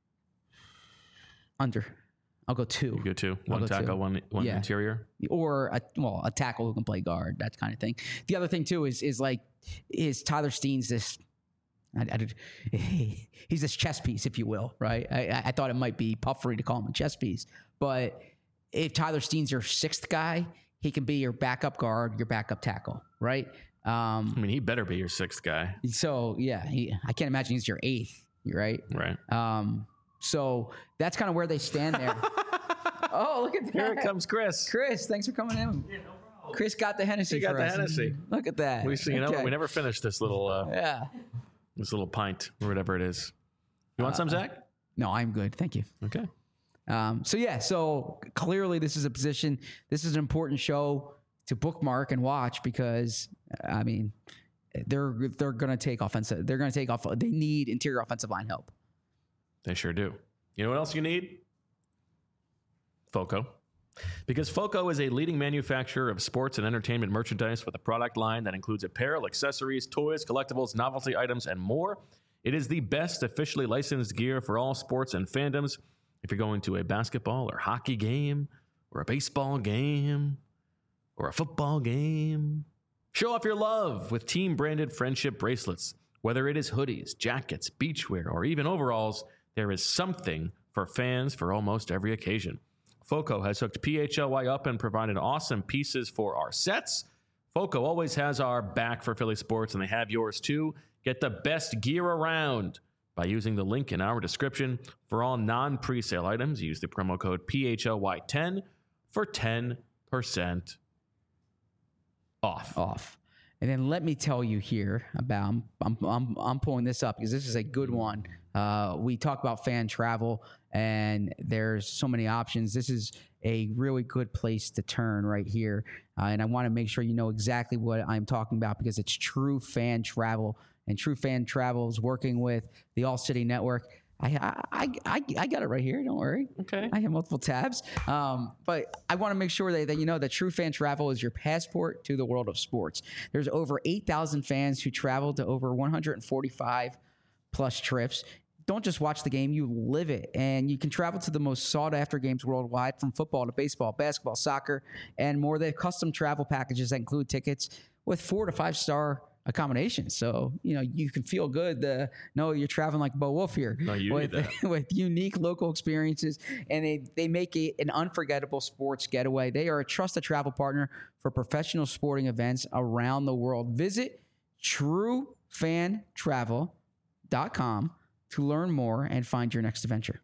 B: under, I'll go two.
A: You go two.
B: I'll
A: One
B: go
A: tackle,
B: two.
A: one one
B: Yeah.
A: interior.
B: or a, well, a tackle who can play guard, that kind of thing. The other thing too is is like is Tyler Steen's this. I, I, he's this chess piece, if you will, right? I, I thought it might be puffery to call him a chess piece, but if Tyler Steen's your sixth guy, he can be your backup guard, your backup tackle, right? Um,
A: I mean, he better be your sixth guy,
B: so yeah, he, I can't imagine he's your eighth, right?
A: right?
B: Um, so that's kind of where they stand there. Oh, look at that!
A: Here comes Chris.
B: Chris, thanks for coming in. Chris got the Hennessy
A: He got
B: for
A: the
B: us.
A: Hennessy.
B: Look at that.
A: We you know
B: Okay.
A: we never finished this little uh,
B: Yeah.
A: this little pint or whatever it is. You want some, Zach?
B: No, I'm good. Thank you.
A: Okay.
B: Um, so yeah, so clearly this is a position. This is an important show to bookmark and watch because I mean they're they're going to take offensive. They're going to take off. They need interior offensive line help.
A: They sure do. You know what else you need? Foco. Because Foco is a leading manufacturer of sports and entertainment merchandise with a product line that includes apparel, accessories, toys, collectibles, novelty items, and more. It is the best officially licensed gear for all sports and fandoms. If you're going to a basketball or hockey game, or a baseball game, or a football game, show off your love with team-branded friendship bracelets. Whether it is hoodies, jackets, beachwear, or even overalls, there is something for fans for almost every occasion. Foco has hooked P H L Y up and provided awesome pieces for our sets. Foco always has our back for Philly sports, and they have yours too. Get the best gear around by using the link in our description. For all non-presale items, use the promo code P H L Y ten for ten percent off.
B: Off. And then let me tell you here about I'm I'm I'm, I'm pulling this up because this is a good one. Uh, we talk about fan travel, and there's so many options. This is a really good place to turn right here, uh, and I want to make sure you know exactly what I'm talking about because it's True Fan Travel, and True Fan Travel is working with the All City Network. I, I I I got it right here. Don't worry.
A: Okay.
B: I have multiple tabs. Um, but I want to make sure that, that you know that True Fan Travel is your passport to the world of sports. There's over eight thousand fans who travel to over one hundred forty-five plus trips. Don't just watch the game, you live it. And you can travel to the most sought after games worldwide, from football to baseball, basketball, soccer, and more. They have custom travel packages that include tickets with four to five star accommodations. So, you know, you can feel good to know you're traveling like Bo Wolf here.
A: No, you
B: with,
A: need that.
B: with unique local experiences, and they, they make it an unforgettable sports getaway. They are a trusted travel partner for professional sporting events around the world. Visit true fan travel dot com to learn more and find your next adventure.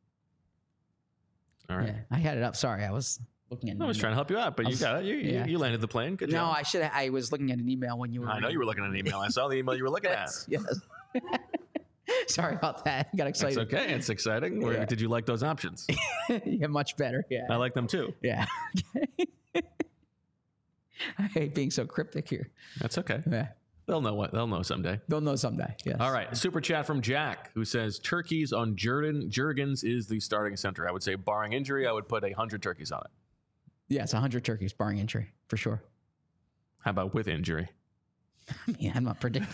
A: All right.
B: Yeah, I had it up. Sorry, I was looking at.
A: I was trying to help you out, but you got it. You,
B: yeah.
A: you, you landed the plane. Good
B: No,
A: job.
B: I should. I was looking at an email when you were.
A: I know you were looking at an email. I saw the email you were looking at.
B: Yes. yes. Sorry about that. I got
A: It's
B: excited.
A: okay. It's exciting. Where,
B: Yeah.
A: Did you like those options?
B: Yeah, much better. Yeah.
A: I like them too.
B: Yeah. I hate being so cryptic here.
A: That's okay.
B: Yeah.
A: They'll know what they'll know someday.
B: They'll know someday. Yes.
A: All right. Super chat from Jack, who says turkeys on Jurgen Jurgens is the starting center. I would say barring injury, I would put a hundred turkeys on it.
B: Yes, one hundred turkeys barring injury for sure.
A: How about with injury?
B: I mean, I'm not predicting.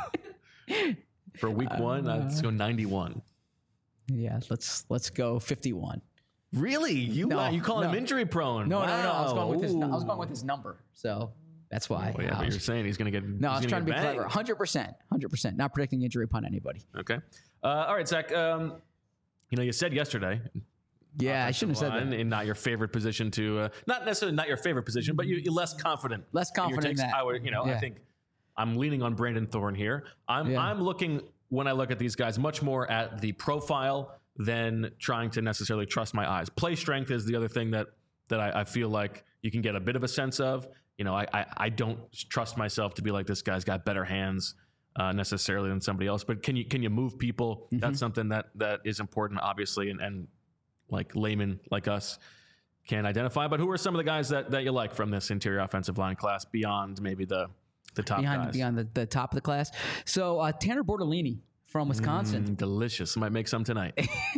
A: For week one, uh, let's go ninety-one.
B: Yeah, let's let's go fifty-one.
A: Really? You
B: No,
A: uh, you call
B: no.
A: him injury prone?
B: No,
A: wow.
B: no, no. I was going with his. I was going with his number, so that's why.
A: Oh, yeah,
B: I
A: but
B: was-
A: you're saying he's going to get.
B: no, I was
A: he's
B: trying to
A: gonna
B: be
A: get
B: clever.
A: banged.
B: Hundred percent, hundred percent. Not predicting injury upon anybody.
A: Okay. Uh, all right, Zach. Um, you know, you said yesterday.
B: Yeah, I shouldn't have said
A: line
B: that.
A: in not your favorite position to, uh, not necessarily not your favorite position, but you, you're less confident.
B: Less
A: in your
B: confident in
A: takes.
B: that.
A: I would, you know, I
B: Yeah.
A: think I'm leaning on Brandon Thorne here. I'm
B: Yeah.
A: I'm looking when I look at these guys much more at the profile than trying to necessarily trust my eyes. Play strength is the other thing that that I, I feel like you can get a bit of a sense of. You know, I I, I don't trust myself to be like this guy's got better hands. Uh, necessarily than somebody else, but can you can you move people?
B: Mm-hmm.
A: That's something that that is important, obviously, and, and like laymen like us can identify. But who are some of the guys that, that you like from this interior offensive line class beyond maybe the the top
B: Behind
A: guys?
B: beyond the, the top of the class. So uh, Tanner Bortolini from Wisconsin.
A: Mm, delicious. Might make some tonight.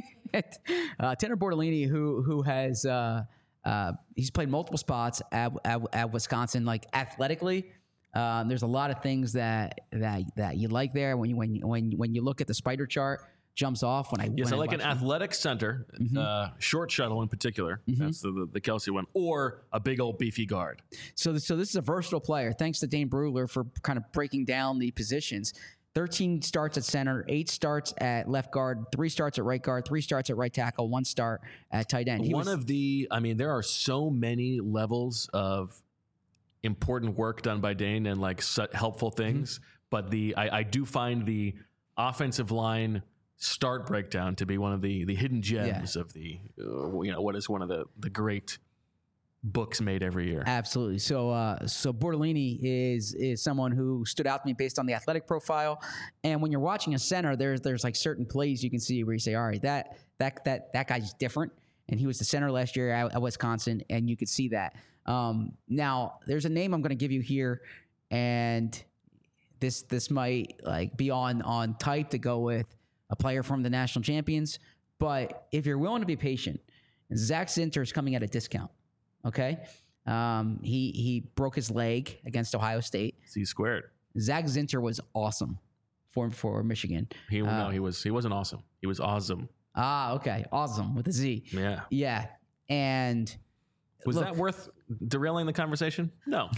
B: uh, Tanner Bortolini, who who has uh, uh, he's played multiple spots at, at, at Wisconsin. Like athletically, um, there's a lot of things that that that you like there. When you when you, when when you look at the spider chart, jumps off when I
A: Yes,
B: when
A: I like an
B: watch him.
A: athletic center,
B: Mm-hmm.
A: uh, short shuttle in particular. That's the, the the Kelsey one, or a big old beefy guard.
B: So, so this is a versatile player. Thanks to Dane Brugler for kind of breaking down the positions. thirteen starts at center, eight starts at left guard, three starts at right guard, three starts at right tackle, one start at tight end. He
A: One
B: was,
A: of the, I mean, there are so many levels of important work done by Dane and like su- helpful things, but the I, I do find the offensive line start breakdown to be one of the the hidden gems of the uh, you know what is one of the the great books made every year.
B: Absolutely. So, uh, so Bortolini is is someone who stood out to me based on the athletic profile. And when you're watching a center, there's there's like certain plays you can see where you say, all right, that that that that guy's different. And he was the center last year at, at Wisconsin, and you could see that. Um, now, there's a name I'm going to give you here, and this this might like be on on type to go with a player from the national champions. But if you're willing to be patient, Zach Zinter is coming at a discount. Okay, um, he he broke his leg against Ohio State.
A: C squared.
B: Zach Zinter was awesome for for Michigan.
A: He
B: Uh,
A: no, he was he wasn't awesome. He was awesome.
B: Ah, okay, awesome with a Z.
A: Yeah.
B: Yeah, and
A: Was
B: look,
A: that worth derailing the conversation? No.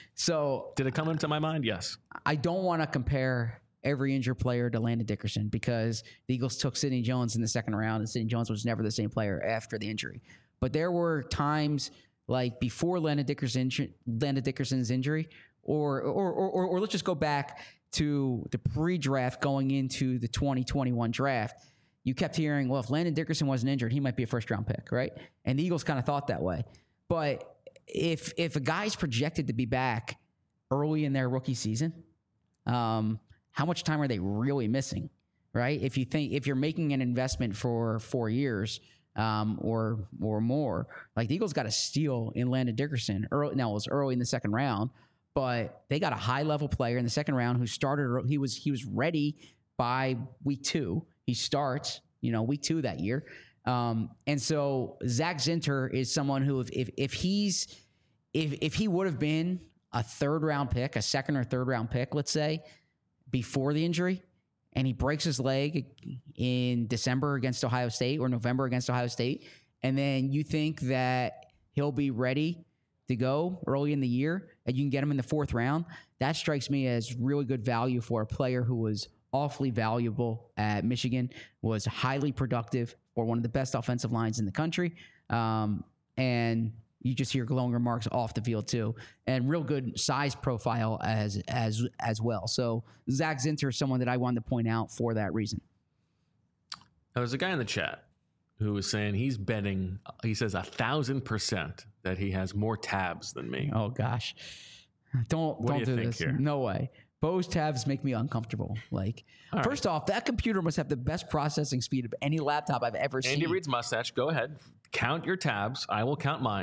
B: so
A: Did it come into my mind? Yes.
B: I don't want to compare every injured player to Landon Dickerson because the Eagles took Sidney Jones in the second round, and Sidney Jones was never the same player after the injury. But there were times like before Landon Dickerson, Landon Dickerson's injury, or or, or or or let's just go back to the pre-draft going into the twenty twenty-one draft. You kept hearing, well, if Landon Dickerson wasn't injured, he might be a first-round pick, right? And the Eagles kind of thought that way. But if if a guy's projected to be back early in their rookie season, um, how much time are they really missing, right? If you think if you're making an investment for four years um, or or more, like the Eagles got a steal in Landon Dickerson. Early, now it was early in the second round, but they got a high level player in the second round who started. He was he was ready by week two. He starts, you know, week two that year. Um, and so Zach Zinter is someone who, if if, if he's if if he would have been a third round pick, a second or third round pick, let's say, before the injury, and he breaks his leg in December against Ohio State or November against Ohio State, and then you think that he'll be ready to go early in the year, and you can get him in the fourth round, that strikes me as really good value for a player who was awfully valuable at Michigan, was highly productive for one of the best offensive lines in the country. Um, and you just hear glowing remarks off the field too, and real good size profile as as as well. So Zach Zinter is someone that I wanted to point out for that reason.
A: There's a guy in the chat who was saying he's betting, he says a thousand percent that he has more tabs than me.
B: Oh gosh, don't
A: What do
B: don't
A: you
B: do,
A: think
B: this.
A: here?
B: No way. Bose tabs make me uncomfortable. Like,
A: All
B: first off, that computer must have the best processing speed of any laptop I've ever
A: Andy
B: seen.
A: Reid's mustache. Go ahead. Count your tabs. I will count mine.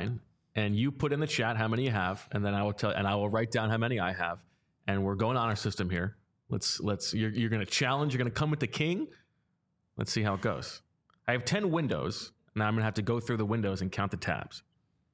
A: and you put in the chat how many you have, and then I will tell, and I will write down how many I have, and we're going honor system here. Let's let's you're you're going to challenge. You're going to come with the king. Let's see how it goes. I have ten windows. Now I'm going to have to go through the windows and count the tabs.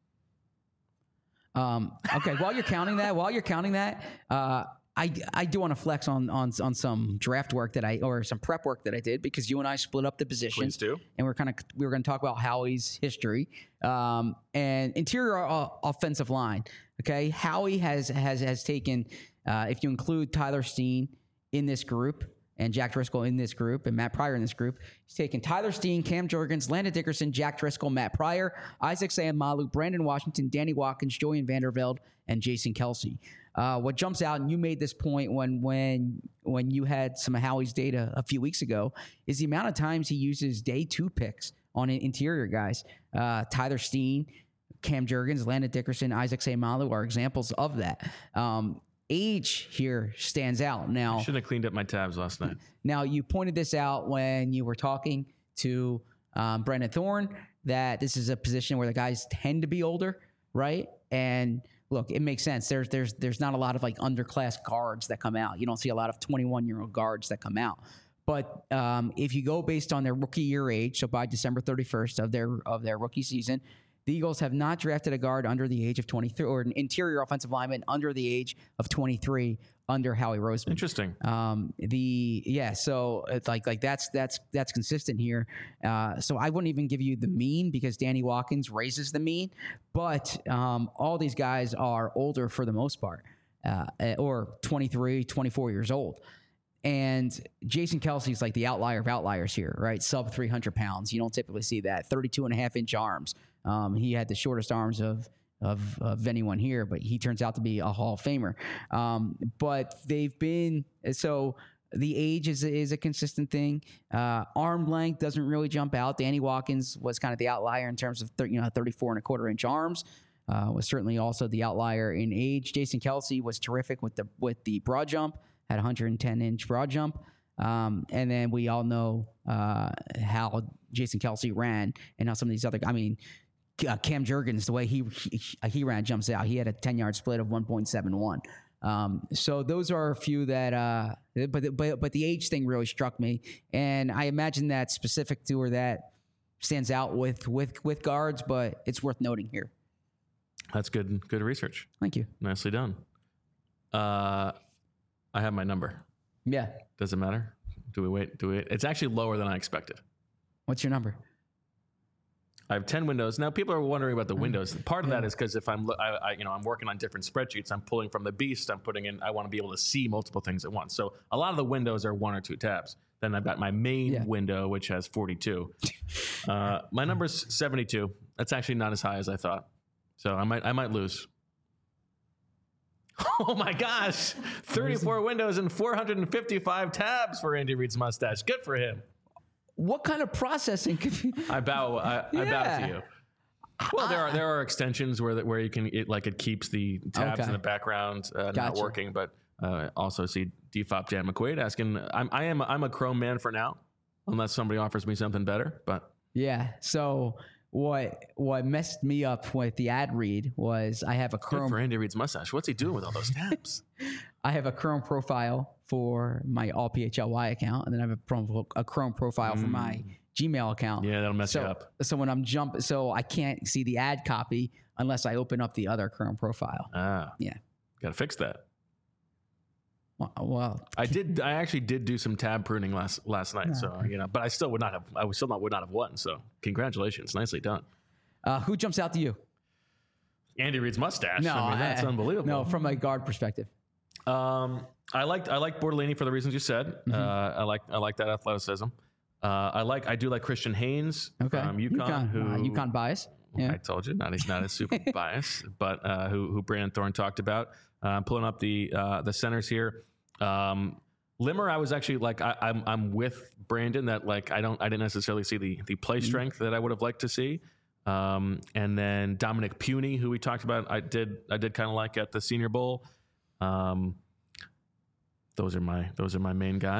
B: Um, okay, while you're counting that, while you're counting that, uh, I, I do want to flex on, on on some draft work that I or some prep work that I did, because you and I split up the positions,
A: Please do.
B: and we're kind of we were going to talk about Howie's history um, and interior uh, offensive line. Okay, Howie has has has taken uh, if you include Tyler Steen in this group and Jack Driscoll in this group and Matt Pryor in this group, he's taken Tyler Steen, Cam Jurgens, Landon Dickerson, Jack Driscoll, Matt Pryor, Isaac Sayamalu, Brandon Washington, Danny Watkins, Julian Vandervelde, and Jason Kelsey. Uh, what jumps out, and you made this point when when when you had some of Howie's data a few weeks ago, is the amount of times he uses day two picks on interior guys. Uh, Tyler Steen, Cam Jurgens, Landon Dickerson, Isaac Sayamalu are examples of that. Um, age here stands out. Now,
A: I shouldn't have cleaned up my tabs last night.
B: Now, you pointed this out when you were talking to um, Brendan Thorne, that this is a position where the guys tend to be older, right? And look, it makes sense. There's there's there's not a lot of like underclass guards that come out. You don't see a lot of twenty-one-year-old guards that come out. But um, if you go based on their rookie year age, so by December thirty-first of their of their rookie season, the Eagles have not drafted a guard under the age of twenty-three, or an interior offensive lineman under the age of twenty-three under Howie Roseman.
A: Interesting.
B: Um, the yeah, so it's like like that's that's that's consistent here. Uh, so I wouldn't even give you the mean, because Danny Watkins raises the mean, but um, all these guys are older for the most part, uh, or twenty-three, twenty-four years old. And Jason Kelsey's like the outlier of outliers here, right? Sub three hundred pounds. You don't typically see that. thirty-two and a half inch arms. Um, he had the shortest arms of, of of anyone here, but he turns out to be a Hall of Famer. Um, but they've been, so the age is, is a consistent thing. Uh, arm length doesn't really jump out. Danny Watkins was kind of the outlier in terms of thirty, you know, thirty-four and a quarter inch arms. Uh, was certainly also the outlier in age. Jason Kelsey was terrific with the with the broad jump, had one hundred ten inch broad jump. Um, and then we all know uh, how Jason Kelsey ran, and how some of these other, I mean, uh, Cam Jurgens, the way he, he he ran jumps out. He had a ten-yard split of one point seven one. Um, so those are a few that, uh, but but but the age thing really struck me, and I imagine that specific to or that stands out with with with guards, but it's worth noting here.
A: That's good. Good research.
B: Thank you.
A: Nicely done. Uh, I have my number.
B: Yeah.
A: Does it matter? Do we wait? Do we? It's actually lower than I expected.
B: What's your number?
A: I have ten windows. Now, people are wondering about the windows. Part of yeah. that is because if I'm, I, I, you know, I'm working on different spreadsheets. I'm pulling from the beast. I'm putting in. I want to be able to see multiple things at once. So a lot of the windows are one or two tabs. Then I've got my main yeah. window, which has forty-two. uh, my number's seventy-two. That's actually not as high as I thought. So I might, I might lose. Oh my gosh! thirty-four windows and four hundred fifty-five tabs for Andy Reid's mustache. Good for him.
B: What kind of processing could you?
A: I bow. I, yeah. I bow to you. Well, there are there are extensions where where you can it, like it keeps the tabs okay. in the background uh, gotcha. not working, but uh, also see D F O P Jan McQuaid asking. I'm I am I'm a Chrome man for now, unless somebody offers me something better. But
B: yeah, so. What what messed me up with the ad read was I have a Chrome
A: Good for Andy Reid's mustache. What's he doing with all those tabs?
B: I have a Chrome profile for my all P H L Y account, and then I have a Chrome, a Chrome profile mm. for my Gmail account.
A: Yeah, that'll mess
B: so,
A: you up.
B: So when I'm jump, so I can't see the ad copy unless I open up the other Chrome profile.
A: Ah,
B: yeah,
A: got to fix that.
B: Well, well,
A: I did. I actually did do some tab pruning last last night. No. So you know, but I still would not have. I would still not would not have won. So congratulations, nicely done.
B: Uh, who jumps out to you?
A: Andy Reid's mustache.
B: No,
A: I mean, that's
B: I,
A: unbelievable.
B: No, from a guard perspective.
A: Um, I liked I like Bortolini for the reasons you said. Mm-hmm. Uh, I like I like that athleticism. Uh, I like I do like Christian Haynes
B: okay.
A: from UConn.
B: UConn,
A: who
B: uh, UConn bias. Yeah.
A: I told you, not he's not a super bias, but uh, who who Brandon Thorne talked about. Uh, I'm pulling up the uh, the centers here. Um, Limmer, I was actually like, I, I'm, I'm with Brandon that like, I don't, I didn't necessarily see the, the play strength that I would have liked to see. Um, and then Dominic Puny, who we talked about, I did, I did kind of like at the Senior Bowl. Um, those are my, those are my main guys.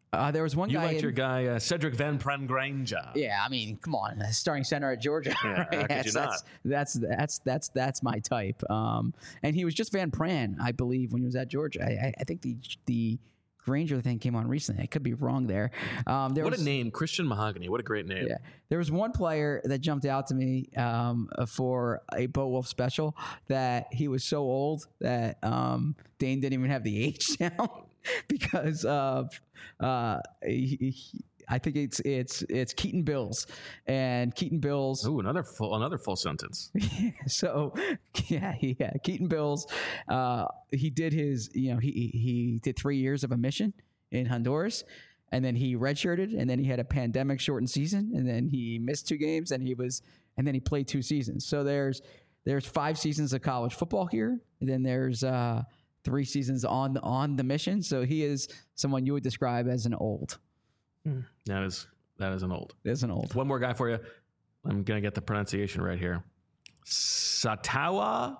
B: Uh, there was one
A: You
B: guy.
A: liked
B: in-
A: your guy uh, Cedric Van Prengranger.
B: Yeah, I mean, come on, starting center at Georgia.
A: Yeah,
B: right?
A: how could
B: that's,
A: you
B: that's, that's that's that's that's my type. Um, and he was just Van Pran, I believe, when he was at Georgia. I, I, I think the the Granger thing came on recently. I could be wrong there. Um, there
A: What
B: was,
A: a name, Christian Mahogany. What a great name.
B: Yeah, there was one player that jumped out to me um, for a Bo Wolf special that he was so old that um, Dane didn't even have the age down because of uh, he, he, I think it's it's it's Keaton Bills and Keaton Bills.
A: Ooh, another full another full sentence.
B: So yeah, yeah, Keaton Bills. Uh, he did his, you know, he he did three years of a mission in Honduras, and then he redshirted, and then he had a pandemic shortened season, and then he missed two games, and he was, and then he played two seasons. So there's there's five seasons of college football here, and then there's uh, three seasons on on the mission. So he is someone you would describe as an old.
A: That is that is an old.
B: As an old.
A: One more guy for you. I'm gonna get the pronunciation right here. Satawa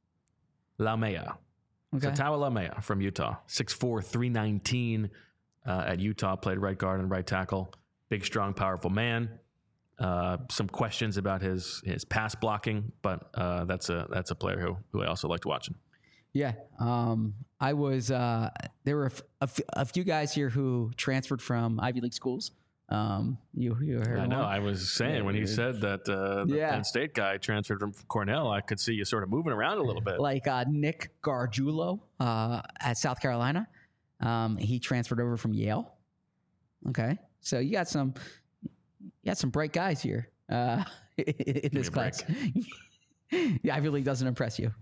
A: Lamea.
B: Okay.
A: Satawa Lamea from Utah. six four, three nineteen uh, at Utah. Played right guard and right tackle. Big, strong, powerful man. Uh, some questions about his his pass blocking, but uh, that's a that's a player who who I also liked watching.
B: Yeah, um, I was. Uh, there were a, f- a, f- a few guys here who transferred from Ivy League schools. Um, you, you heard.
A: I know.
B: one?
A: I was saying
B: Yeah,
A: when he
B: it-
A: said that uh, the
B: Yeah.
A: Penn State guy transferred from Cornell, I could see you sort of moving around a little bit.
B: Like uh, Nick Gargiulo uh, at South Carolina. Um, he transferred over from Yale. Okay, so you got some, you got some bright guys here uh, in this
A: a
B: class. The Ivy League doesn't impress you.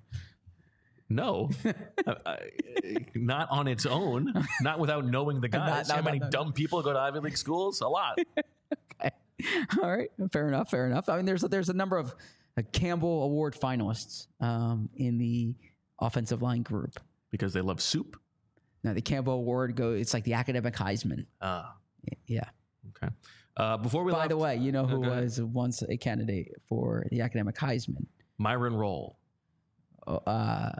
A: No, uh, uh, not on its own. Not without knowing the guys.
B: not-
A: How many
B: not-
A: dumb people go to Ivy League schools? A lot.
B: All right, fair enough, fair enough. I mean, there's a, there's a number of uh, Campbell Award finalists um, in the offensive line group.
A: Because they love soup.
B: Now, the Campbell Award go. It's like the academic Heisman.
A: Ah,
B: Yeah.
A: okay. Uh, before we
B: By
A: left,
B: the way, you know who
A: go ahead.
B: was once a candidate for the academic Heisman?
A: Myron Roll.
B: Uh,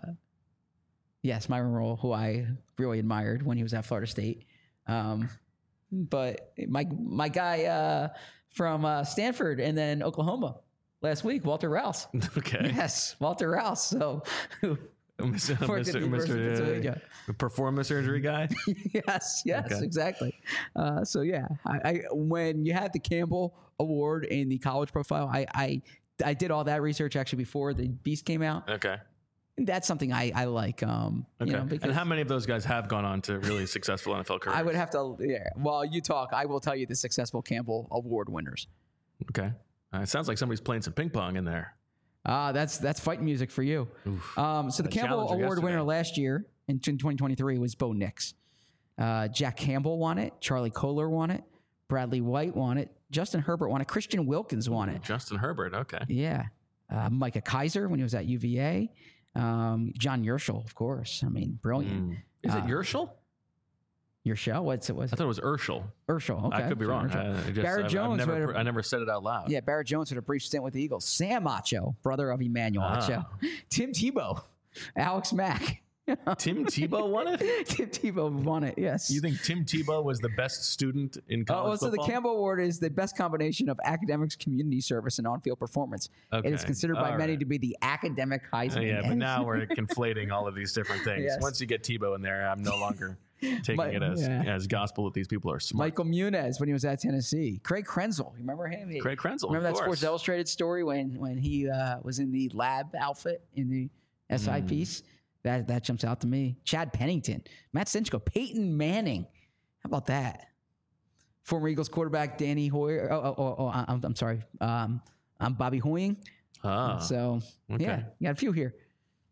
B: yes, Myron Roll, who I really admired when he was at Florida State. Um, but my my guy uh, from uh, Stanford and then Oklahoma last week, Walter Rouse.
A: Okay.
B: Yes, Walter Rouse. So,
A: Mister
B: Worked at the University of
A: Mister
B: Pennsylvania.
A: uh, performance surgery guy.
B: yes, yes,
A: Okay.
B: exactly. Uh, so yeah, I, I when you had the Campbell Award in the college profile, I I, I did all that research actually before the Beast came out.
A: Okay.
B: And that's something I, I like. Um,
A: Okay.
B: you know, because
A: and how many of those guys have gone on to really successful N F L careers?
B: I would have to. Yeah. While you talk, I will tell you the successful Campbell Award winners.
A: Okay. Uh, it sounds like somebody's playing some ping pong in there.
B: Ah, that's that's fight music for you. Um, so the
A: A
B: Campbell
A: challenger
B: Award winner
A: yesterday.
B: last year in twenty twenty-three was Bo Nix. Uh, Jack Campbell won it. Charlie Kohler won it. Bradley White won it. Justin Herbert won it. Christian Wilkins won it.
A: Justin Herbert. Okay.
B: Yeah. Uh, Micah Kaiser when he was at U V A. Um, John Yerschel, of course. I mean, brilliant.
A: Mm. Is it
B: Uh,
A: Yerschel?
B: Yerschel? What's it? Was
A: I thought it was Urschel.
B: Urschel? Okay.
A: I could be
B: John
A: wrong.
B: Yerschel.
A: I, I just,
B: Barrett
A: I've,
B: Jones
A: I've never,
B: had a-
A: I never said it out loud.
B: Yeah, Barrett Jones had a brief stint with the Eagles. Sam Acho, brother of Emmanuel
A: Ah.
B: Acho. Tim Tebow. Alex Mack.
A: Tim Tebow won it?
B: Tim Tebow won it, yes.
A: You think Tim Tebow was the best student in
B: Oh,
A: college
B: well, so the
A: football?
B: Campbell Award is the best combination of academics, community service, and on-field performance. It is
A: Okay.
B: considered by
A: All
B: many
A: right.
B: to be the academic
A: Uh,
B: Heisman.
A: yeah, but
B: And-
A: now we're conflating all of these different things.
B: Yes.
A: Once you get Tebow in there, I'm no longer taking
B: Mi-
A: it as,
B: yeah.
A: as gospel that these people are smart.
B: Michael Muniz when he was at Tennessee. Craig Krenzel, you remember him? He-
A: Craig Krenzel,
B: Remember
A: of
B: that
A: course.
B: Sports Illustrated story when when he uh, was in the lab outfit in the S I
A: Mm.
B: piece? That that jumps out to me. Chad Pennington, Matt Stinchko, Peyton Manning. How about that? Former Eagles quarterback Danny Hoyer. Oh, oh, oh, oh I'm, I'm sorry. Um, I'm Bobby Hoying.
A: Ah,
B: So
A: okay.
B: yeah, you got a few here.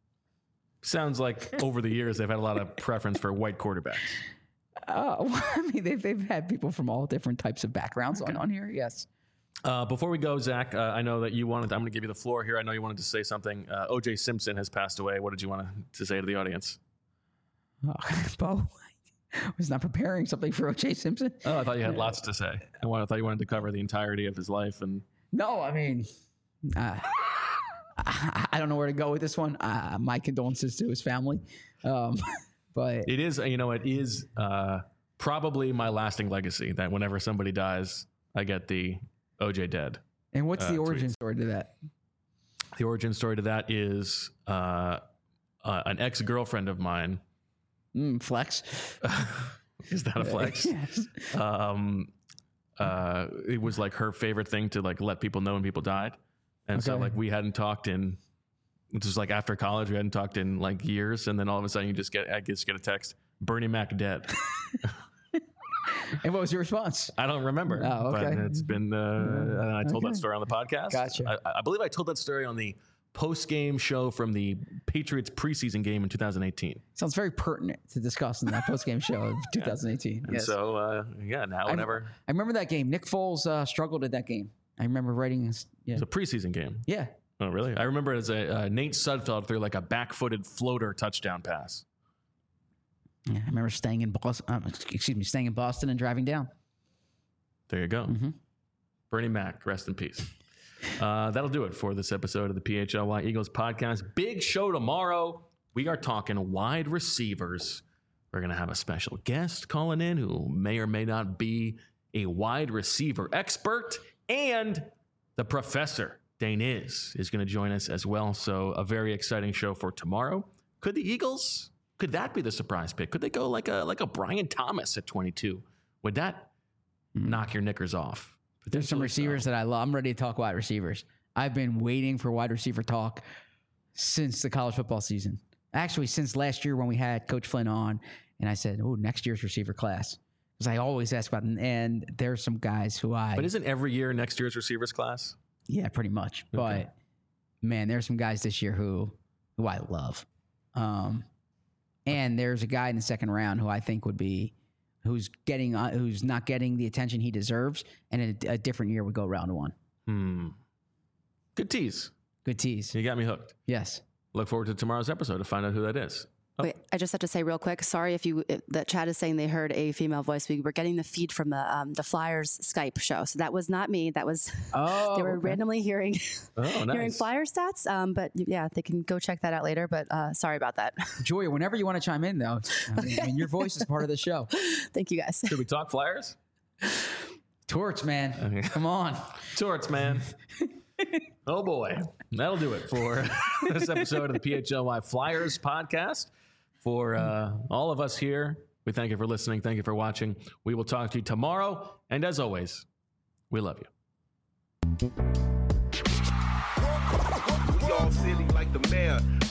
A: Sounds like over the years they've had a lot of preference for white quarterbacks.
B: Uh, well, I mean, they've they've had people from all different types of backgrounds on, on here. Yes.
A: Uh, before we go, Zach, uh, I know that you wanted. I'm going to give you the floor here. I know you wanted to say something. Uh, O J Simpson has passed away. What did you want to say to the audience?
B: Oh, Bo was not preparing something for O J Simpson.
A: Oh, I thought you had lots to say. I, wanted, I thought you wanted to cover the entirety of his life. And
B: No, I mean, uh, I, I don't know where to go with this one. Uh, my condolences to his family. Um, but
A: it is, you know, it is uh, probably my lasting legacy. That whenever somebody dies, I get the O J dead.
B: And what's
A: uh,
B: the origin
A: tweets.
B: story to that?
A: The origin story to that is uh, uh, an ex-girlfriend of mine.
B: Mm, flex.
A: Is that a flex?
B: Yes.
A: Um, uh, it was like her favorite thing to like let people know when people died, and so
B: Okay.
A: like we hadn't talked in. This was like after college, we hadn't talked in like years, and then all of a sudden you just get I just get a text, Bernie Mac dead.
B: And what was your response?
A: I don't remember.
B: Oh, okay.
A: But it's been. Uh, and I told
B: Okay.
A: that story on the podcast.
B: Gotcha.
A: I, I believe I told that story on the post-game show from the Patriots preseason game in two thousand eighteen.
B: Sounds very pertinent to discuss in that post-game show of twenty eighteen.
A: And
B: Yes.
A: so, uh, yeah, now whenever
B: I remember that game. Nick Foles uh, struggled at that game. I remember writing his, yeah.
A: it's a preseason game.
B: Yeah.
A: Oh, really? I remember it as a uh, Nate Sudfeld threw like a back-footed floater touchdown pass.
B: Yeah. I remember staying in Boston, um, excuse me, staying in Boston and driving down.
A: There you go.
B: Mhm.
A: Bernie Mac, rest in peace. Uh, that'll do it for this episode of the P H L Y Eagles podcast. Big show tomorrow. We are talking wide receivers. We're going to have a special guest calling in who may or may not be a wide receiver expert. And the professor, Dane is, is going to join us as well. So a very exciting show for tomorrow. Could the Eagles, could that be the surprise pick? Could they go like a like a Brian Thomas at twenty-two? Would that knock your knickers off?
B: There's some receivers that I love. I'm ready to talk wide receivers. I've been waiting for wide receiver talk since the college football season. Actually, since last year when we had Coach Flynn on, and I said, "Oh, next year's receiver class," because I always ask about them. And there's some guys who I,
A: But isn't every year next year's receivers class?
B: yeah, pretty much.
A: Okay.
B: But man, there's some guys this year who who I love. Um, and there's a guy in the second round who I think would be. Who's getting? Uh, who's not getting the attention he deserves? And in a, a different year would go round one.
A: Hmm. Good tease.
B: Good tease.
A: You got me hooked.
B: Yes.
A: Look forward to tomorrow's episode to find out who that is. Oh.
D: Wait, I just have to say real quick. Sorry if you if the chat is saying they heard a female voice. We were getting the feed from the um, the Flyers Skype show, so that was not me. That was
B: Oh,
D: they were
B: okay.
D: randomly hearing
A: Oh,
D: hearing
A: nice.
D: Flyer stats. Um, but yeah, they can go check that out later. But uh, sorry about that.
B: Julia, whenever you want to chime in, though, I mean, I mean, your voice is part of the show.
D: Thank you guys.
A: Should we talk Flyers?
B: Torch, man.
A: Okay.
B: Come on.
A: Torts, man. Oh, boy. That'll do it for this episode of the P H L Y Flyers podcast. For uh, all of us here, we thank you for listening. Thank you for watching. We will talk to you tomorrow. And as always, we love you.
E: We all silly like the mayor.